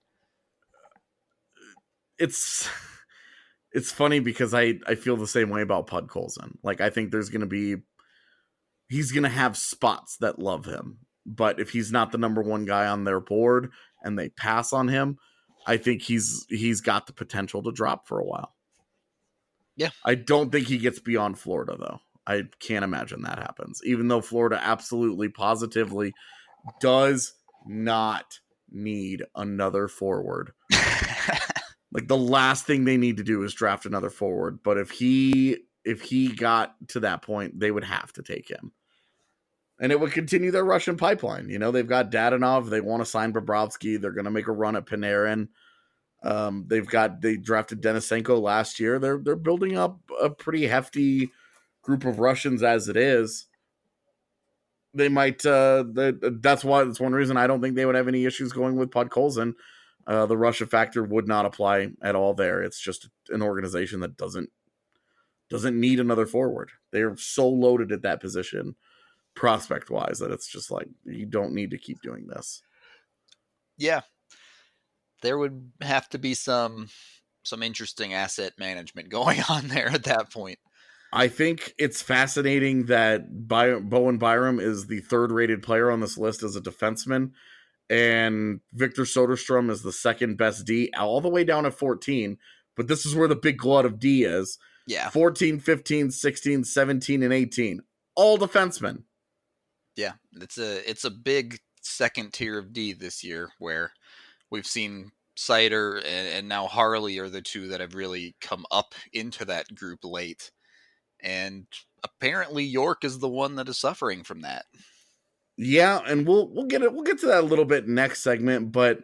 it's it's funny because I, I feel the same way about Podkolzin. Like, I think there's going to be he's going to have spots that love him. But if he's not the number one guy on their board and they pass on him, I think he's he's got the potential to drop for a while. Yeah. I don't think he gets beyond Florida, though. I can't imagine that happens. Even though Florida absolutely, positively does not need another forward. Like, the last thing they need to do is draft another forward. But if he if he got to that point, they would have to take him. And it would continue their Russian pipeline. You know, they've got Dadonov. They want to sign Bobrovsky. They're going to make a run at Panarin. Um, they've got they drafted Denisenko last year. They're they're building up a pretty hefty group of Russians as it is. They might. Uh, the, that's why. That's one reason I don't think they would have any issues going with Podkolzin. Uh, the Russia factor would not apply at all there. It's just an organization that doesn't doesn't need another forward. They are so loaded at that position, prospect wise, that it's just like you don't need to keep doing this. Yeah, there would have to be some some interesting asset management going on there at that point. I think it's fascinating that By- Bowen Byram is the third rated player on this list as a defenseman, and Victor Soderstrom is the second best D, all the way down at fourteen. But this is where the big glut of D is. Yeah. fourteen, fifteen, sixteen, seventeen, and eighteen. All defensemen. Yeah. It's a it's a big second tier of D this year where we've seen Seider and, and now Harley are the two that have really come up into that group late. And apparently York is the one that is suffering from that. Yeah, and we'll we'll get it. We'll get to that a little bit next segment. But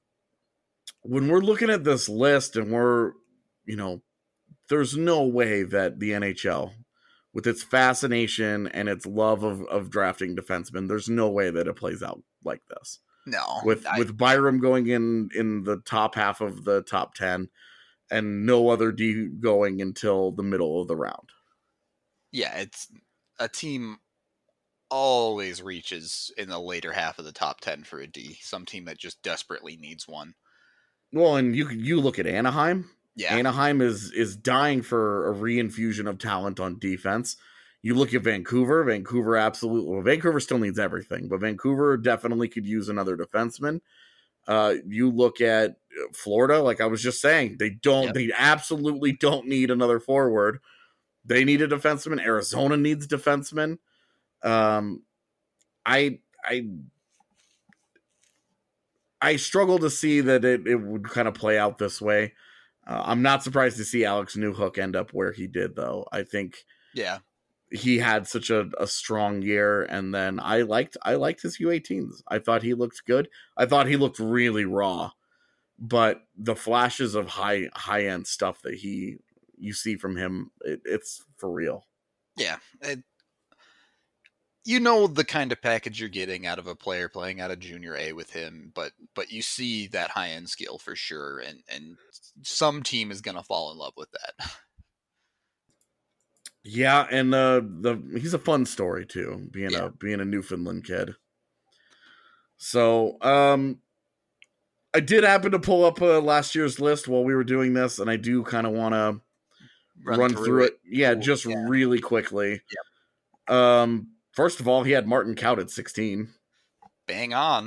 when we're looking at this list, and we're, you know, there's no way that the N H L, with its fascination and its love of of drafting defensemen, there's no way that it plays out like this. No, with I, with Byram going in in the top half of the top ten, and no other D going until the middle of the round. Yeah, it's a team always reaches in the later half of the top ten for a D. Some team that just desperately needs one. Well, and you you look at Anaheim. Yeah, Anaheim is is dying for a reinfusion of talent on defense. You look at Vancouver. Vancouver absolutely. Well, Vancouver still needs everything, but Vancouver definitely could use another defenseman. Uh, you look at Florida. Like I was just saying, they don't. Yep. They absolutely don't need another forward. They need a defenseman. Arizona needs defenseman. Um, I I I struggle to see that it, it would kind of play out this way. Uh, I'm not surprised to see Alex Newhook end up where he did, though. I think yeah, he had such a, a strong year, and then I liked I liked his U eighteens. I thought he looked good. I thought he looked really raw, but the flashes of high high end stuff that he you see from him, it, it's for real. Yeah. It, you know the kind of package you're getting out of a player playing out of junior A with him, but but you see that high end skill for sure, and, and some team is gonna fall in love with that. Yeah, and uh, the he's a fun story too, being yeah. a being a Newfoundland kid. So um I did happen to pull up uh, last year's list while we were doing this, and I do kind of want to run, run through, through it. it. Yeah, Ooh, just yeah. really quickly. Yep. Um, first of all, he had Martin Kaut at sixteen. Bang on.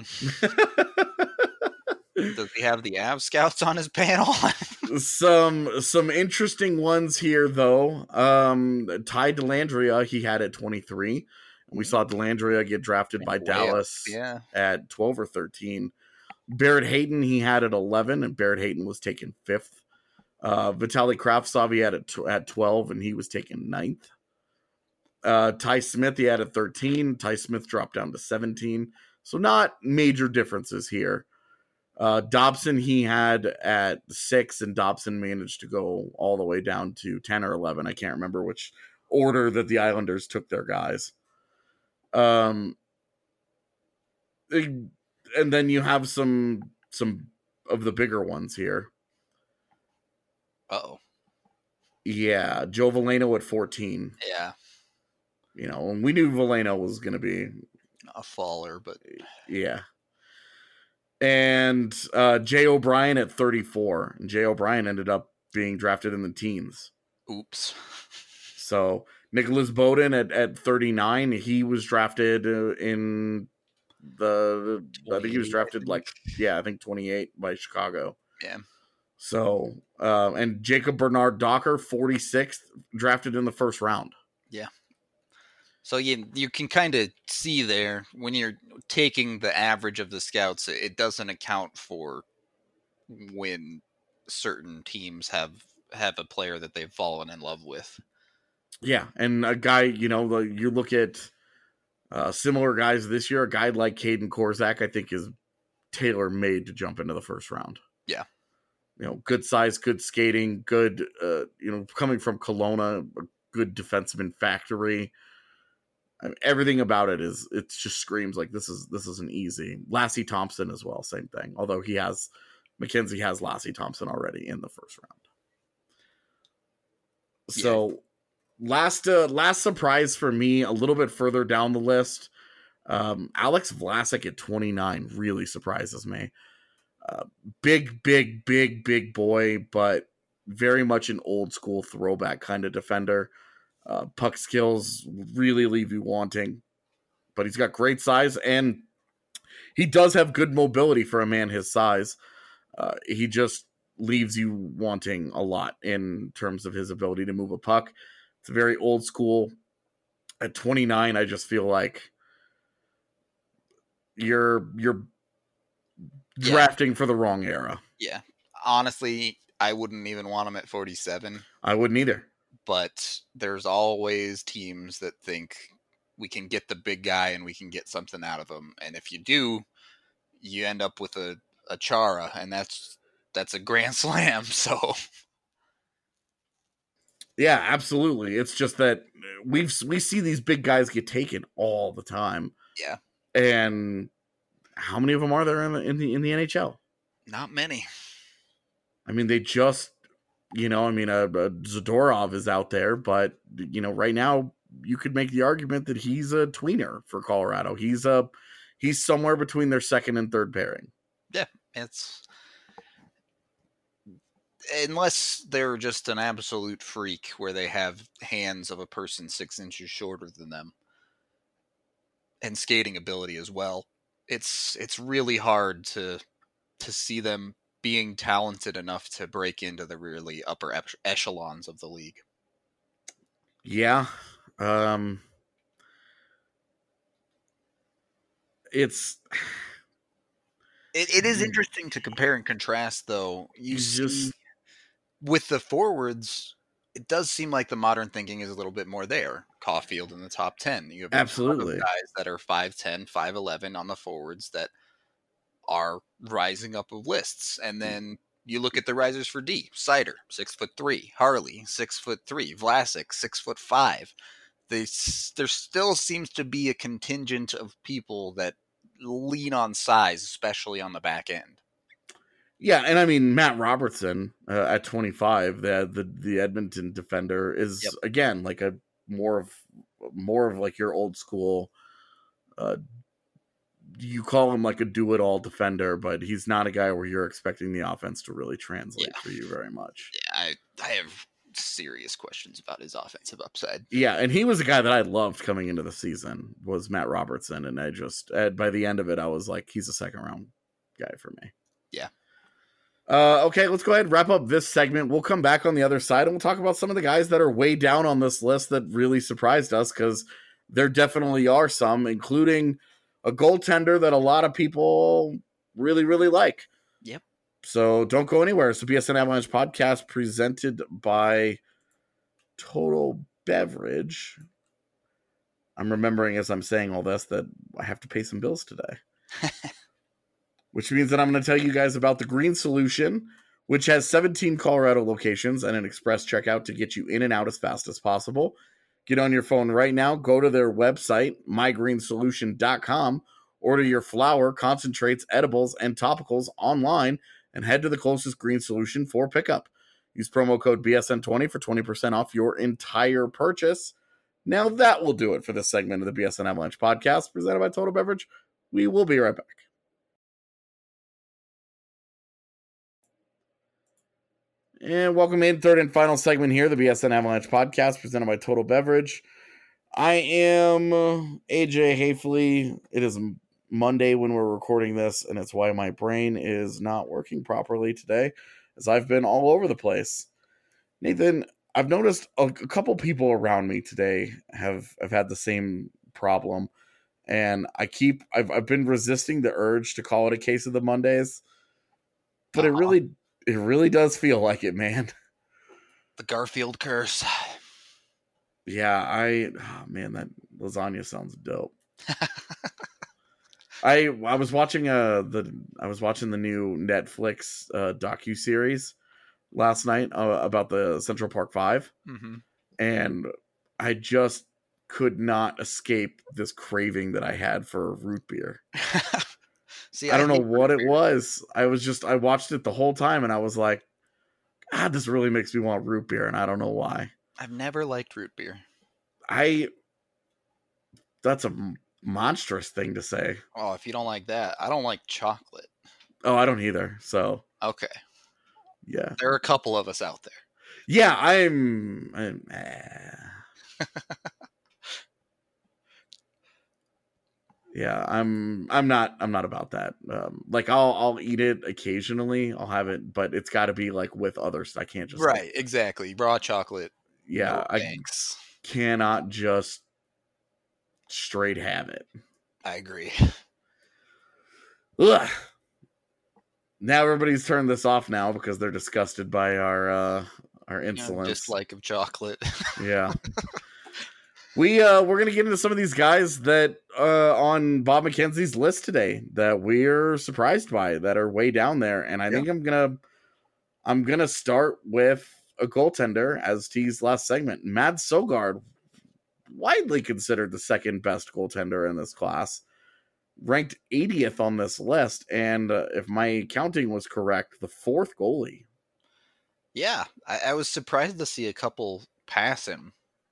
Does he have the Av Scouts on his panel? some some interesting ones here, though. Um, Ty Dellandrea, he had at twenty-three. We saw Delandria get drafted by Way Dallas up, yeah. at twelve or thirteen. Barrett Hayton, he had at eleven, and Barrett Hayton was taken fifth. Uh, Vitaly Kravtsov, he had at, tw- at twelve, and he was taken ninth. Uh, Ty Smith, he had at thirteen. Ty Smith dropped down to seventeen. So not major differences here. Uh, Dobson, he had at six, and Dobson managed to go all the way down to ten or eleven. I can't remember which order that the Islanders took their guys. Um, and then you have some some of the bigger ones here. Uh-oh. Yeah, Joe Veleno at fourteen. Yeah. You know, and we knew Veleno was going to be A faller, but yeah. And uh, Jay O'Brien at thirty-four. And Jay O'Brien ended up being drafted in the teens. oops. So Nicholas Bowden at, at thirty-nine, he was drafted uh, in the, I think he was drafted like, yeah, I think twenty-eight by Chicago. Yeah. So, uh, and Jacob Bernard Docker, forty-sixth, drafted in the first round. Yeah. So you you can kind of see there when you're taking the average of the scouts, it doesn't account for when certain teams have have a player that they've fallen in love with. Yeah, and a guy, you know, you look at uh, similar guys this year, a guy like Caden Korzak, I think is tailor-made to jump into the first round. Yeah. You know, good size, good skating, good, uh, you know, coming from Kelowna, a good defenseman factory. I mean, everything about it is, it just screams like this is this is an easy. Lassie Thompson as well, same thing. Although he has, Mackenzie has Lassie Thompson already in the first round. So, yeah. last uh, last surprise for me, a little bit further down the list, um, Alex Vlasic at twenty-nine really surprises me. Uh, big, big, big, big boy, but very much an old school throwback kind of defender. Uh, puck skills really leave you wanting, but he's got great size, and he does have good mobility for a man his size. Uh, he just leaves you wanting a lot in terms of his ability to move a puck. It's very old school. At twenty-nine, I just feel like you're you're Yeah. drafting for the wrong era. Yeah. Honestly, I wouldn't even want him at forty-seven. I wouldn't either. But there's always teams that think we can get the big guy and we can get something out of him. And if you do, you end up with a, a Chara, and that's that's a grand slam. So yeah, absolutely. It's just that we've we see these big guys get taken all the time. Yeah. And how many of them are there in the in the, in the N H L? Not many. I mean, they just, you know, I mean, a, a Zadorov is out there, but you know, right now you could make the argument that he's a tweener for Colorado. He's a he's somewhere between their second and third pairing. Yeah, it's unless they're just an absolute freak where they have hands of a person six inches shorter than them and skating ability as well. It's it's really hard to to see them being talented enough to break into the really upper echelons of the league. Yeah. Um, it's it, it is interesting to compare and contrast, though. You just see, with the forwards, it does seem like the modern thinking is a little bit more there. Caulfield in the top ten. You have absolutely guys that are five ten, five eleven on the forwards that are rising up of lists. And then you look at the risers for D. Seider, six foot three. Harley, six foot three. Vlasic, six foot five. They, there still seems to be a contingent of people that lean on size, especially on the back end. Yeah, and I mean Matt Robertson uh, at twenty-five, the the the Edmonton defender is yep. again like a more of more of like your old school. Uh, you call him like a do-it-all defender, but he's not a guy where you're expecting the offense to really translate yeah. for you very much. Yeah, I I have serious questions about his offensive upside. Yeah, and he was a guy that I loved coming into the season was Matt Robertson, and I just uh, by the end of it, I was like, he's a second round guy for me. Yeah. Uh, okay, let's go ahead and wrap up this segment. We'll come back on the other side and we'll talk about some of the guys that are way down on this list that really surprised us because there definitely are some, including a goaltender that a lot of people really, really like. Yep. So don't go anywhere. It's the B S N Avalanche podcast presented by Total Beverage. I'm remembering as I'm saying all this that I have to pay some bills today. Which means that I'm going to tell you guys about the Green Solution, which has seventeen Colorado locations and an express checkout to get you in and out as fast as possible. Get on your phone right now, go to their website, my green solution dot com, order your flour, concentrates, edibles, and topicals online, and head to the closest Green Solution for pickup. Use promo code B S N twenty for twenty percent off your entire purchase. Now that will do it for this segment of the B S N Avalanche podcast presented by Total Beverage. We will be right back. And welcome in, third and final segment here, the B S N Avalanche podcast presented by Total Beverage. I am A J Hafley. It is Monday when we're recording this, and it's why my brain is not working properly today, as I've been all over the place. Nathan, I've noticed a, a couple people around me today have, have had the same problem, and I keep I've I've been resisting the urge to call it a case of the Mondays, but uh-huh. it really it really does feel like it, man. The Garfield curse. Yeah, I oh man, that lasagna sounds dope. I I was watching uh the I was watching the new Netflix uh, docuseries last night uh, about the Central Park Five, mm-hmm. and I just could not escape this craving that I had for root beer. See, I don't I know what it beer. was. I was just I watched it the whole time, and I was like, God, this really makes me want root beer, and I don't know why. I've never liked root beer. I. That's a monstrous thing to say. Oh, if you don't like that, I don't like chocolate. Oh, I don't either. So okay, yeah, there are a couple of us out there. Yeah, I'm. I'm eh. Yeah, I'm. I'm not. I'm not about that. Um, like I'll. I'll eat it occasionally. I'll have it, but it's got to be like with others. I can't just right. Like, exactly. Raw chocolate. Yeah, no I thanks. cannot just straight have it. I agree. Ugh. Now everybody's turned this off now because they're disgusted by our uh, our insolence. Yeah, dislike of chocolate. Yeah. We uh we're gonna get into some of these guys that uh on Bob McKenzie's list today that we're surprised by, that are way down there, and I yeah. think I'm gonna I'm gonna start with a goaltender as teased last segment. Mads Søgaard, widely considered the second best goaltender in this class, ranked eightieth on this list, and uh, if my counting was correct, the fourth goalie. Yeah, I, I was surprised to see a couple pass him.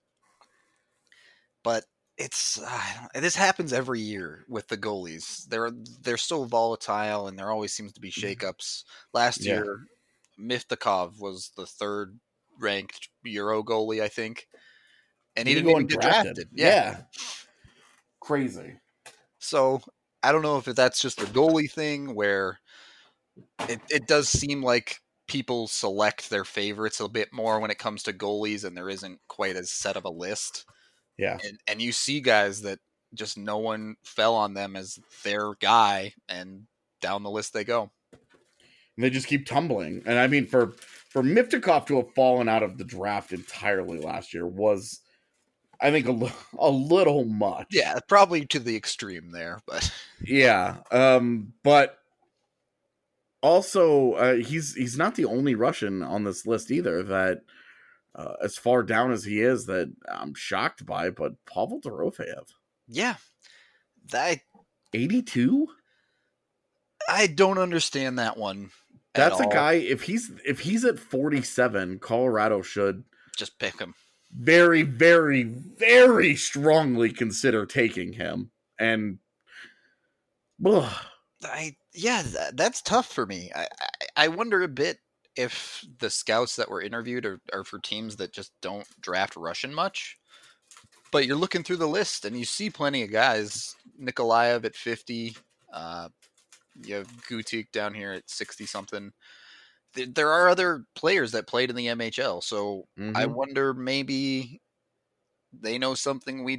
But it's uh, this happens every year with the goalies. They're they're so volatile, and there always seems to be shakeups. Last Yeah. year, Miftakov was the third ranked Euro goalie, I think, and he Did didn't go even get undrafted. drafted. Yeah. yeah, crazy. So I don't know if that's just a goalie thing where it it does seem like people select their favorites a bit more when it comes to goalies, and there isn't quite as set of a list. Yeah. And, and you see guys that just no one fell on them as their guy, and down the list they go. And they just keep tumbling. And I mean, for, for Miftakov to have fallen out of the draft entirely last year was, I think, a, a little much. Yeah, probably to the extreme there. But yeah. Um, but also, uh, he's he's not the only Russian on this list either that, Uh, as far down as he is, that I'm shocked by, but Pavel Dorofeyev. Yeah. That eighty-two? I don't understand that one. That's a all. guy, if he's if he's at forty-seven, Colorado should just pick him. Very, very, very strongly consider taking him. And ugh. I yeah, that, that's tough for me. I, I I wonder a bit if the scouts that were interviewed are, are for teams that just don't draft Russian much. But you're looking through the list and you see plenty of guys. Nikolaev at fifty. Uh, you have Gutik down here at sixty-something. There, there are other players that played in the M H L. So mm-hmm. I wonder maybe they know something we don't.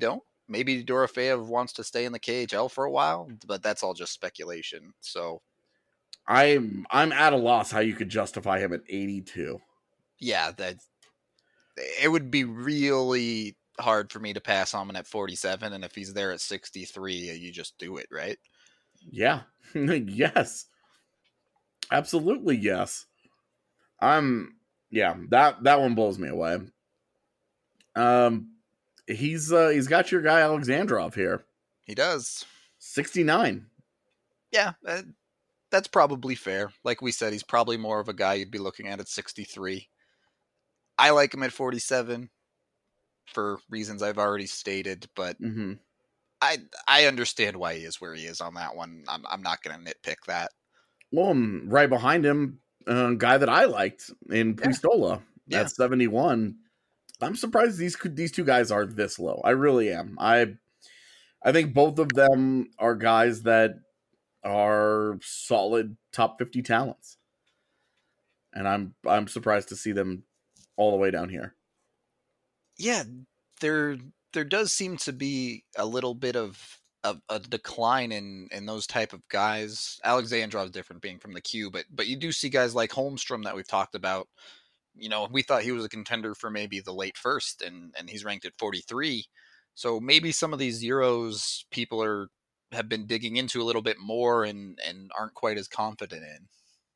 maybe Dorofeyev wants to stay in the K H L for a while, but that's all just speculation. So I'm I'm at a loss how you could justify him at eighty-two. Yeah, that it would be really hard for me to pass on him at forty-seven, and if he's there at sixty-three, you just do it, right? Yeah. Yes. Absolutely yes. I'm yeah, that that one blows me away. Um he's uh he's got your guy Alexandrov here. He does. sixty-nine. Yeah, uh, that's probably fair. Like we said, he's probably more of a guy you'd be looking at at sixty-three. I like him at forty-seven for reasons I've already stated, but Mm-hmm. I I understand why he is where he is on that one. I'm I'm not going to nitpick that. Well, um, right behind him, a uh, guy that I liked in Puistola Yeah. at seventy-one. I'm surprised these these two guys are this low. I really am. I I think both of them are guys that are solid top fifty talents, and I'm I'm surprised to see them all the way down here. Yeah, there there does seem to be a little bit of a, a decline in in those type of guys. Alexandrov is different, being from the Q, but but you do see guys like Holmstrom that we've talked about. You know, we thought he was a contender for maybe the late first, and and he's ranked at forty-three. So maybe some of these Euros people are have been digging into a little bit more and and aren't quite as confident in.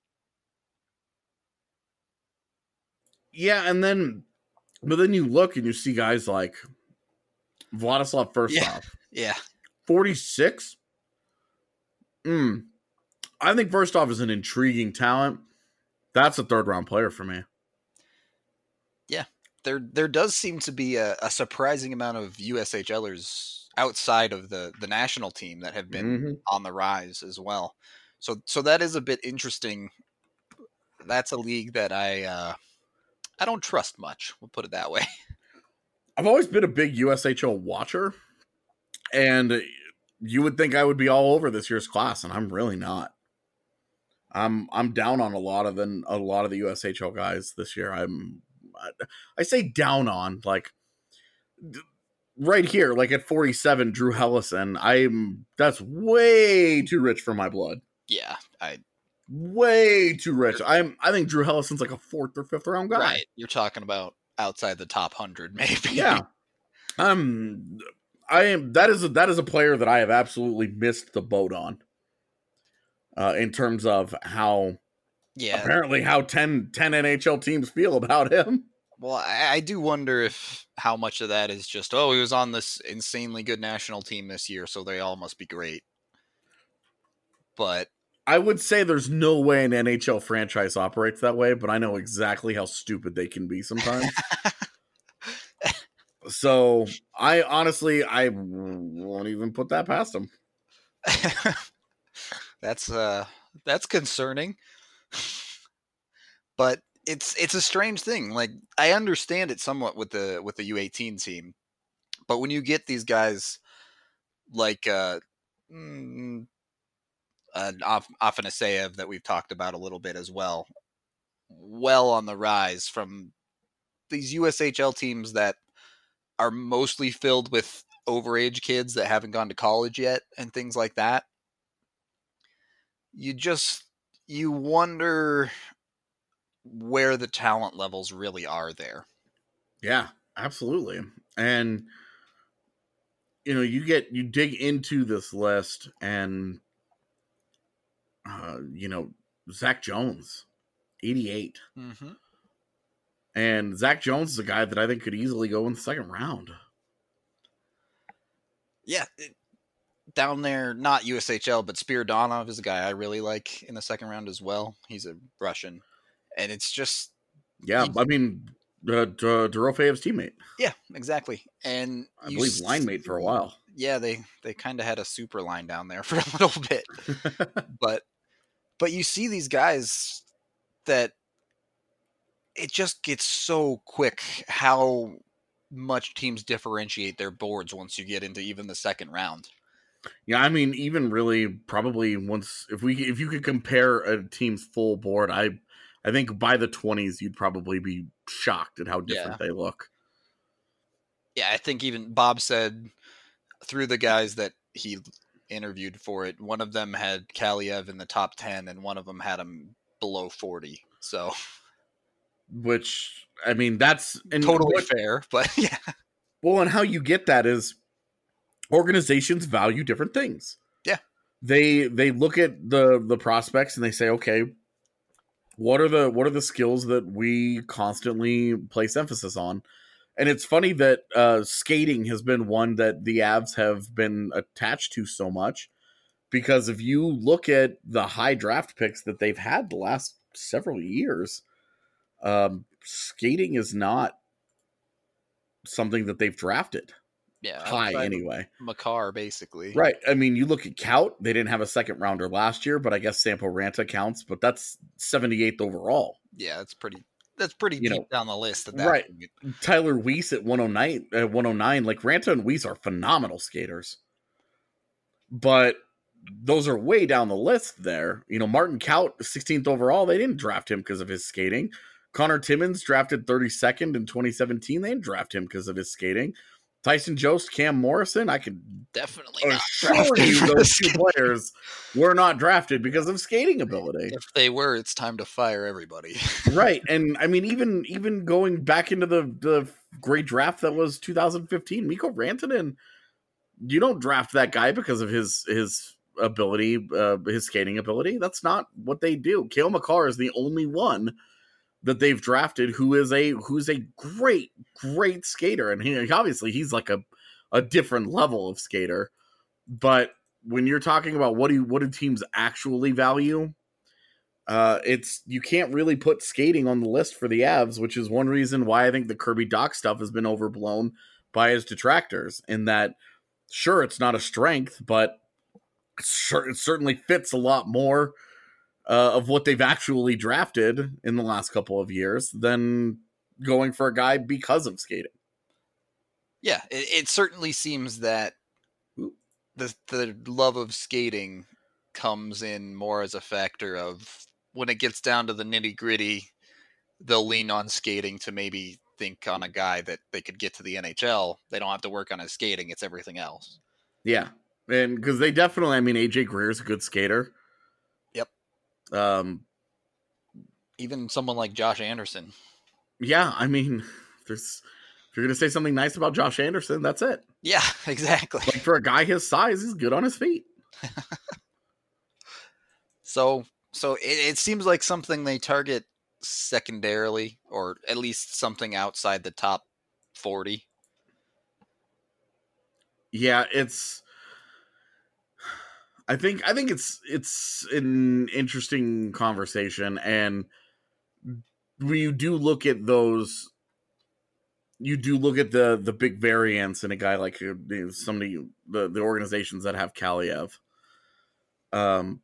Yeah, and then but then you look and you see guys like Vladislav Firstov. Yeah. Yeah. forty-six? Mm. I think Firstov is an intriguing talent. That's a third round player for me. Yeah. There there does seem to be a, a surprising amount of U S H Lers outside of the, the national team that have been Mm-hmm. on the rise as well. So so that is a bit interesting. That's a league that I uh, I don't trust much. We'll put it that way. I've always been a big U S H L watcher, and you would think I would be all over this year's class, and I'm really not. I'm I'm down on a lot of the a lot of the U S H L guys this year. I'm I, I say down on like right here, like at forty-seven, Drew Hellison. I'm that's way too rich for my blood. Yeah, I way too rich. I'm I think Drew Hellison's like a fourth or fifth round guy. Right. You're talking about outside the top hundred, maybe. Yeah. Um I am that is a that is a player that I have absolutely missed the boat on. Uh in terms of how Yeah. apparently how ten, ten N H L teams feel about him. Well, I, I do wonder if how much of that is just, oh, he was on this insanely good national team this year, so they all must be great. But I would say there's no way an N H L franchise operates that way, but I know exactly how stupid they can be sometimes. So I honestly, I won't even put that past them. that's uh, that's concerning. But it's it's a strange thing. Like, I understand it somewhat with the with the U eighteen team, but when you get these guys like uh, mm, uh Afanaseyev that we've talked about a little bit as well, well on the rise from these U S H L teams that are mostly filled with overage kids that haven't gone to college yet and things like that, you just you wonder where the talent levels really are there. Yeah, absolutely. And you know, you get you dig into this list, and uh, you know, Zach Jones, eighty-eight. Mm-hmm. And Zach Jones is a guy that I think could easily go in the second round. Yeah, it, down there, not U S H L, but Spiridonov is a guy I really like in the second round as well. He's a Russian, and it's just yeah. he, I mean, uh, D- Dorofeyev's teammate. Yeah, exactly. And I believe s- line mate for a while. Yeah, they they kind of had a super line down there for a little bit, but but you see these guys that it just gets so quick how much teams differentiate their boards once you get into even the second round. Yeah, I mean, even really, probably once if we if you could compare a team's full board, I I think by the twenties you'd probably be shocked at how different Yeah. they look. Yeah, I think even Bob said through the guys that he interviewed for it, one of them had Kaliev in the top ten, and one of them had him below forty. So, which I mean, that's and totally what, fair, but yeah. Well, and how you get that is organizations value different things. Yeah, they they look at the the prospects and they say, okay, what are the what are the skills that we constantly place emphasis on? And it's funny that uh, skating has been one that the Avs have been attached to so much, because if you look at the high draft picks that they've had the last several years, um, skating is not something that they've drafted. Yeah, high anyway. Makar, basically. Right. I mean, you look at Kaut, they didn't have a second rounder last year, but I guess Sampo Ranta counts, but that's seventy-eighth overall. Yeah, that's pretty that's pretty you deep know, down the list at that right. point. Tyler Weiss at one oh nine, uh, one oh nine, like Ranta and Weiss are phenomenal skaters. But those are way down the list there. You know, Martin Kaut, sixteenth overall, they didn't draft him because of his skating. Connor Timmins drafted thirty-second in twenty seventeen. They didn't draft him because of his skating. Tyson Jost, Cam Morrison, I could definitely assure you those two players were not drafted because of skating ability. If they were, it's time to fire everybody. Right. And I mean, even even going back into the, the great draft that was two thousand fifteen, Mikko Rantanen, you don't draft that guy because of his his ability, uh, his skating ability. That's not what they do. Cale Makar is the only one that they've drafted who is a who's a great great skater, and he obviously he's like a a different level of skater. But when you're talking about what do what do teams actually value, uh it's you can't really put skating on the list for the Avs, which is one reason why I think the Kirby Dach stuff has been overblown by his detractors, in that sure, it's not a strength, but sure, it certainly fits a lot more Uh, of what they've actually drafted in the last couple of years than going for a guy because of skating. Yeah, it, it certainly seems that the the love of skating comes in more as a factor of when it gets down to the nitty gritty, they'll lean on skating to maybe think on a guy that they could get to the N H L. They don't have to work on his skating. It's everything else. Yeah. And because they definitely, I mean, A J Greer's a good skater. Um, even someone like Josh Anderson. Yeah, I mean, there's if you're gonna say something nice about Josh Anderson, that's it. Yeah, exactly. Like, for a guy his size, he's good on his feet. so, so it, it seems like something they target secondarily, or at least something outside the top forty. Yeah, it's. I think I think it's it's an interesting conversation, and when you do look at those, you do look at the the big variance in a guy like you know, somebody the the organizations that have Kaliev. Um,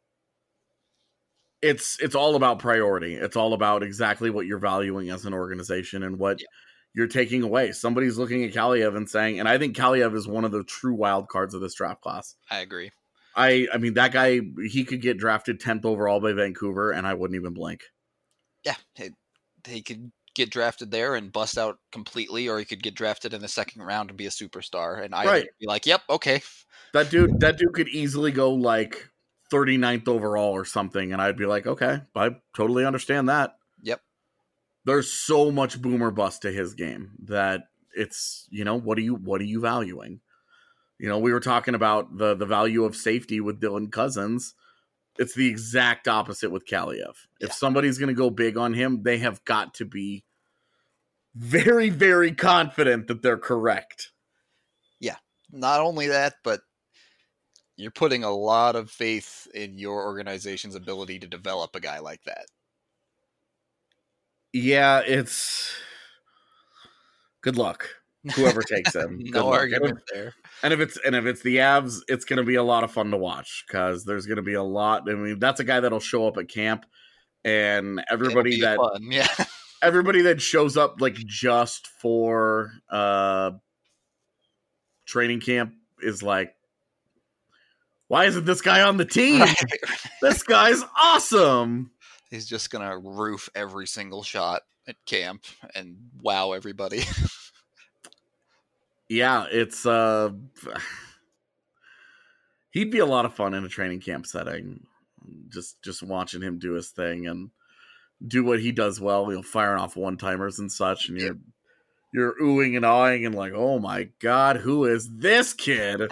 it's it's all about priority. It's all about exactly what you're valuing as an organization and what yeah. you're taking away. Somebody's looking at Kaliev and saying, and I think Kaliev is one of the true wild cards of this draft class. I agree. I I mean, that guy, he could get drafted tenth overall by Vancouver, and I wouldn't even blink. Yeah, he, he could get drafted there and bust out completely, or he could get drafted in the second round and be a superstar. And I'd right. be like, yep, okay. That dude, that dude could easily go like thirty-ninth overall or something, and I'd be like, okay, I totally understand that. Yep. There's so much boomer bust to his game that it's, you know, what are you what are you valuing? You know, we were talking about the, the value of safety with Dylan Cousins. It's the exact opposite with Kaliev. Yeah. If somebody's going to go big on him, they have got to be very, very confident that they're correct. Yeah. Not only that, but you're putting a lot of faith in your organization's ability to develop a guy like that. Yeah, it's good luck. Whoever takes him. No argument there. And if it's and if it's the Avs, it's going to be a lot of fun to watch because there's going to be a lot. I mean, that's a guy that'll show up at camp, and everybody that fun. Yeah, everybody that shows up like just for uh, training camp is like, why isn't this guy on the team? Right. This guy's awesome. He's just gonna roof every single shot at camp and wow everybody. Yeah, it's uh he'd be a lot of fun in a training camp setting. Just just watching him do his thing and do what he does well, you know, firing off one-timers and such, and you're you're oohing and awing and like, oh my god, who is this kid?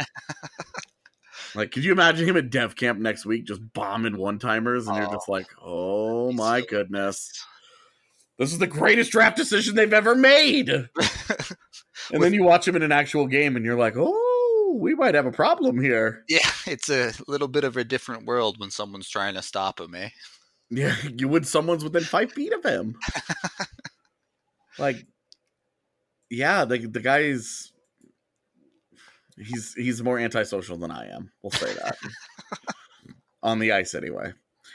Like, could you imagine him at Dev Camp next week just bombing one-timers, and oh, you're just like, oh my so goodness. This is the greatest draft decision they've ever made. And With, then you watch him in an actual game, and you're like, oh, we might have a problem here. Yeah, it's a little bit of a different world when someone's trying to stop him, eh? Yeah, you would someone's within five feet of him. Like, yeah, the the guy's he's he's more antisocial than I am. We'll say that. On the ice, anyway.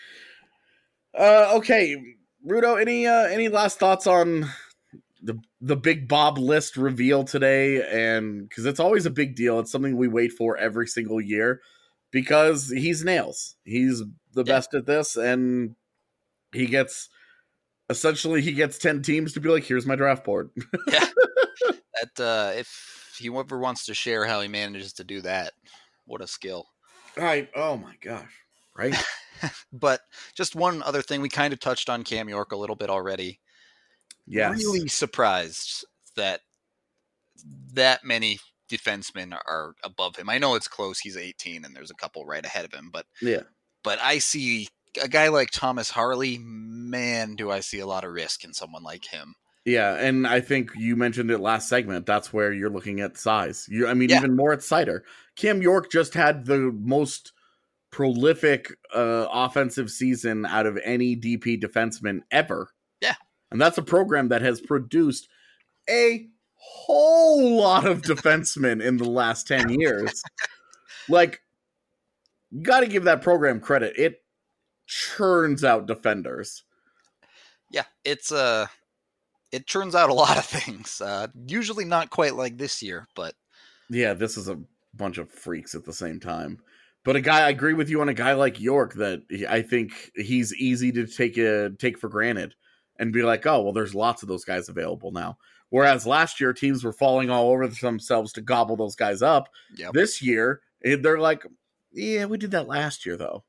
Uh, okay, Rudo, any uh, any last thoughts on the the Big Bob list reveal today? And because it's always a big deal, it's something we wait for every single year because he's nails. He's the yeah. best at this, and he gets essentially he gets ten teams to be like, here's my draft board. Yeah. That uh, if he ever wants to share how he manages to do that, what a skill. Right. Oh my gosh. Right. But just one other thing, we kind of touched on Cam York a little bit already. Yes. Really surprised that that many defensemen are above him. I know it's close. He's eighteen and there's a couple right ahead of him, but yeah. But I see a guy like Thomas Harley, man, do I see a lot of risk in someone like him. Yeah, and I think you mentioned it last segment. That's where you're looking at size. You, I mean, yeah. even more at Seider. Cam York just had the most prolific uh, offensive season out of any D P defenseman ever. Yeah. And that's a program that has produced a whole lot of defensemen in the last ten years. Like, you got to give that program credit. It churns out defenders. Yeah, it's a... Uh... It turns out a lot of things. Uh, usually not quite like this year, but yeah, this is a bunch of freaks at the same time. But a guy, I agree with you on a guy like York that I think he's easy to take a take for granted and be like, oh, well, there's lots of those guys available now. Whereas last year teams were falling all over themselves to gobble those guys up. Yep. This year they're like, yeah, we did that last year though.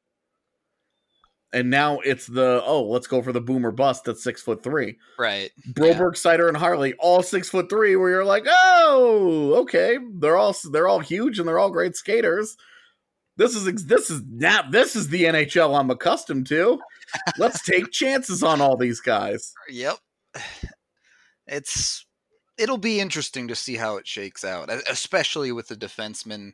And now it's the, oh, let's go for the boomer bust that's six foot three. Right. Broberg, yeah. Seider, and Harley, all six foot three, where you're like, oh, okay. They're all they're all huge and they're all great skaters. This is this is now this is the N H L I'm accustomed to. Let's take chances on all these guys. Yep. It's it'll be interesting to see how it shakes out, especially with the defensemen.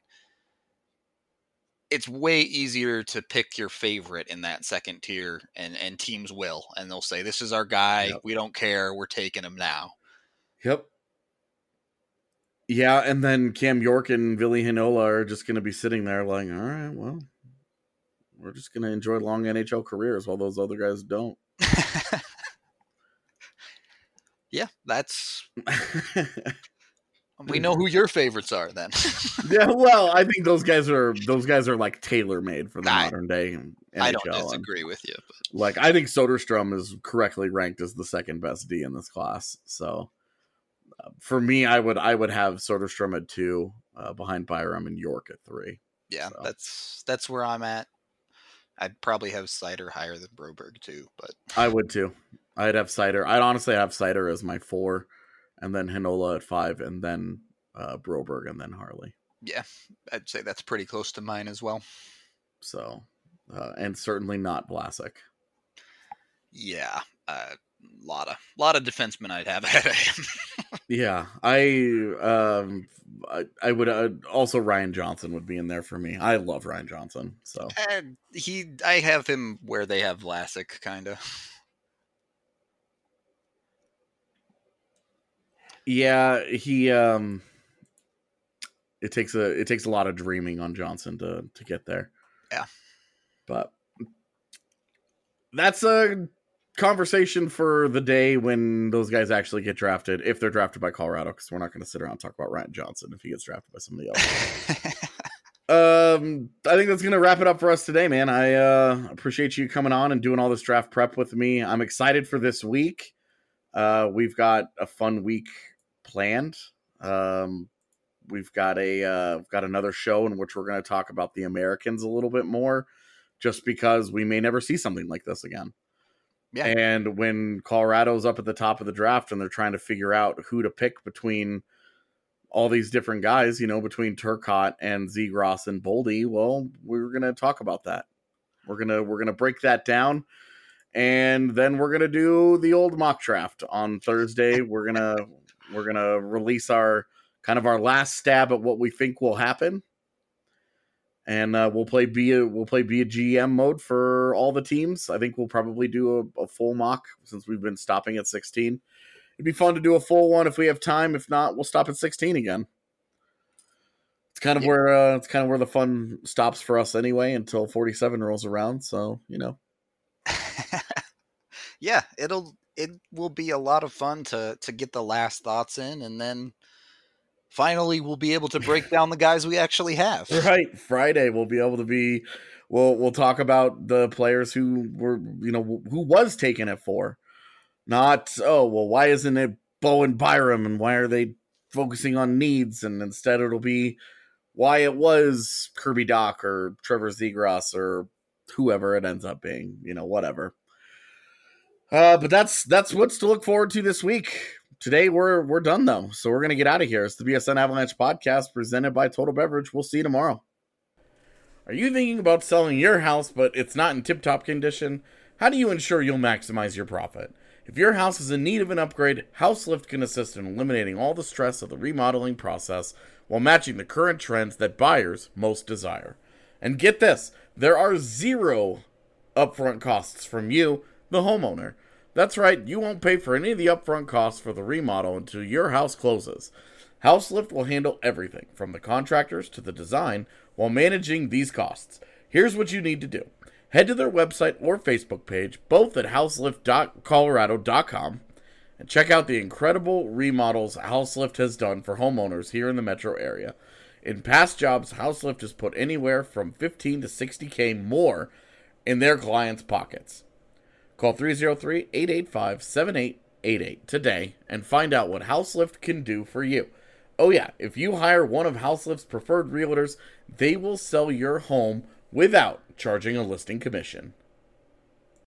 It's way easier to pick your favorite in that second tier, and, and teams will. And they'll say, this is our guy. Yep. We don't care. We're taking him now. Yep. Yeah, and then Cam York and Ville Heinola are just going to be sitting there like, all right, well, we're just going to enjoy long N H L careers while those other guys don't. Yeah, that's... We know who your favorites are then. Yeah, well, I think those guys are those guys are like tailor-made for the I, modern day N H L. I don't disagree with you. But. Like, I think Soderstrom is correctly ranked as the second best D in this class. So, uh, for me, I would I would have Soderstrom at two, uh, behind Byram, and York at three. Yeah, so. that's that's where I'm at. I'd probably have Seider higher than Broberg too, but I would too. I'd have Seider. I'd honestly have Seider as my four. And then Heinola at five, and then uh, Broberg, and then Harley. Yeah, I'd say that's pretty close to mine as well. So, uh, and certainly not Vlasic. Yeah, a uh, lot of lot of defensemen I'd have ahead of him. Yeah, I um, I, I would uh, also Ryan Johnson would be in there for me. I love Ryan Johnson. So uh, he, I have him where they have Vlasic, kind of. Yeah, he um it takes a it takes a lot of dreaming on Johnson to to get there. Yeah. But that's a conversation for the day when those guys actually get drafted, if they're drafted by Colorado, because we're not going to sit around and talk about Ryan Johnson if he gets drafted by somebody else. um I think that's going to wrap it up for us today, man. I uh appreciate you coming on and doing all this draft prep with me. I'm excited for this week. Uh we've got a fun week planned. Um, we've got a uh, we've got another show in which we're going to talk about the Americans a little bit more, just because we may never see something like this again. Yeah. And when Colorado's up at the top of the draft and they're trying to figure out who to pick between all these different guys, you know, between Turcotte and Zegras and Boldy, well, we're going to talk about that. We're going to we're going to break that down. And then we're going to do the old mock draft on Thursday. We're going to we're going to release our kind of our last stab at what we think will happen. And uh, we'll play be a we'll play be a G M mode for all the teams. I think we'll probably do a, a full mock since we've been stopping at sixteen. It'd be fun to do a full one if we have time. If not, we'll stop at sixteen again. It's kind of yeah. where uh, it's kind of where the fun stops for us anyway until forty-seven rolls around. So you know, yeah, it'll it will be a lot of fun to to get the last thoughts in, and then finally we'll be able to break down the guys we actually have. Right, Friday we'll be able to be. We'll we'll talk about the players who were you know who was taken at four. Not, oh, well, why isn't it Bo and Byram, and why are they focusing on needs? And instead it'll be why it was Kirby Doc or Trevor Zegras or whoever it ends up being, you know, whatever. Uh, but that's that's what's to look forward to this week. Today we're we're done, though, so we're going to get out of here. It's the B S N Avalanche podcast presented by Total Beverage. We'll see you tomorrow. Are you thinking about selling your house, but it's not in tip-top condition? How do you ensure you'll maximize your profit? If your house is in need of an upgrade, HouseLift can assist in eliminating all the stress of the remodeling process while matching the current trends that buyers most desire. And get this, there are zero upfront costs from you, the homeowner. That's right, you won't pay for any of the upfront costs for the remodel until your house closes. HouseLift will handle everything, from the contractors to the design, while managing these costs. Here's what you need to do. Head to their website or Facebook page, both at houselift dot colorado dot com, and check out the incredible remodels HouseLift has done for homeowners here in the metro area. In past jobs, HouseLift has put anywhere from fifteen to sixty K more in their clients' pockets. Call three oh three, eight eight five, seven eight eight eight today and find out what HouseLift can do for you. Oh yeah, if you hire one of HouseLift's preferred realtors, they will sell your home without charging a listing commission.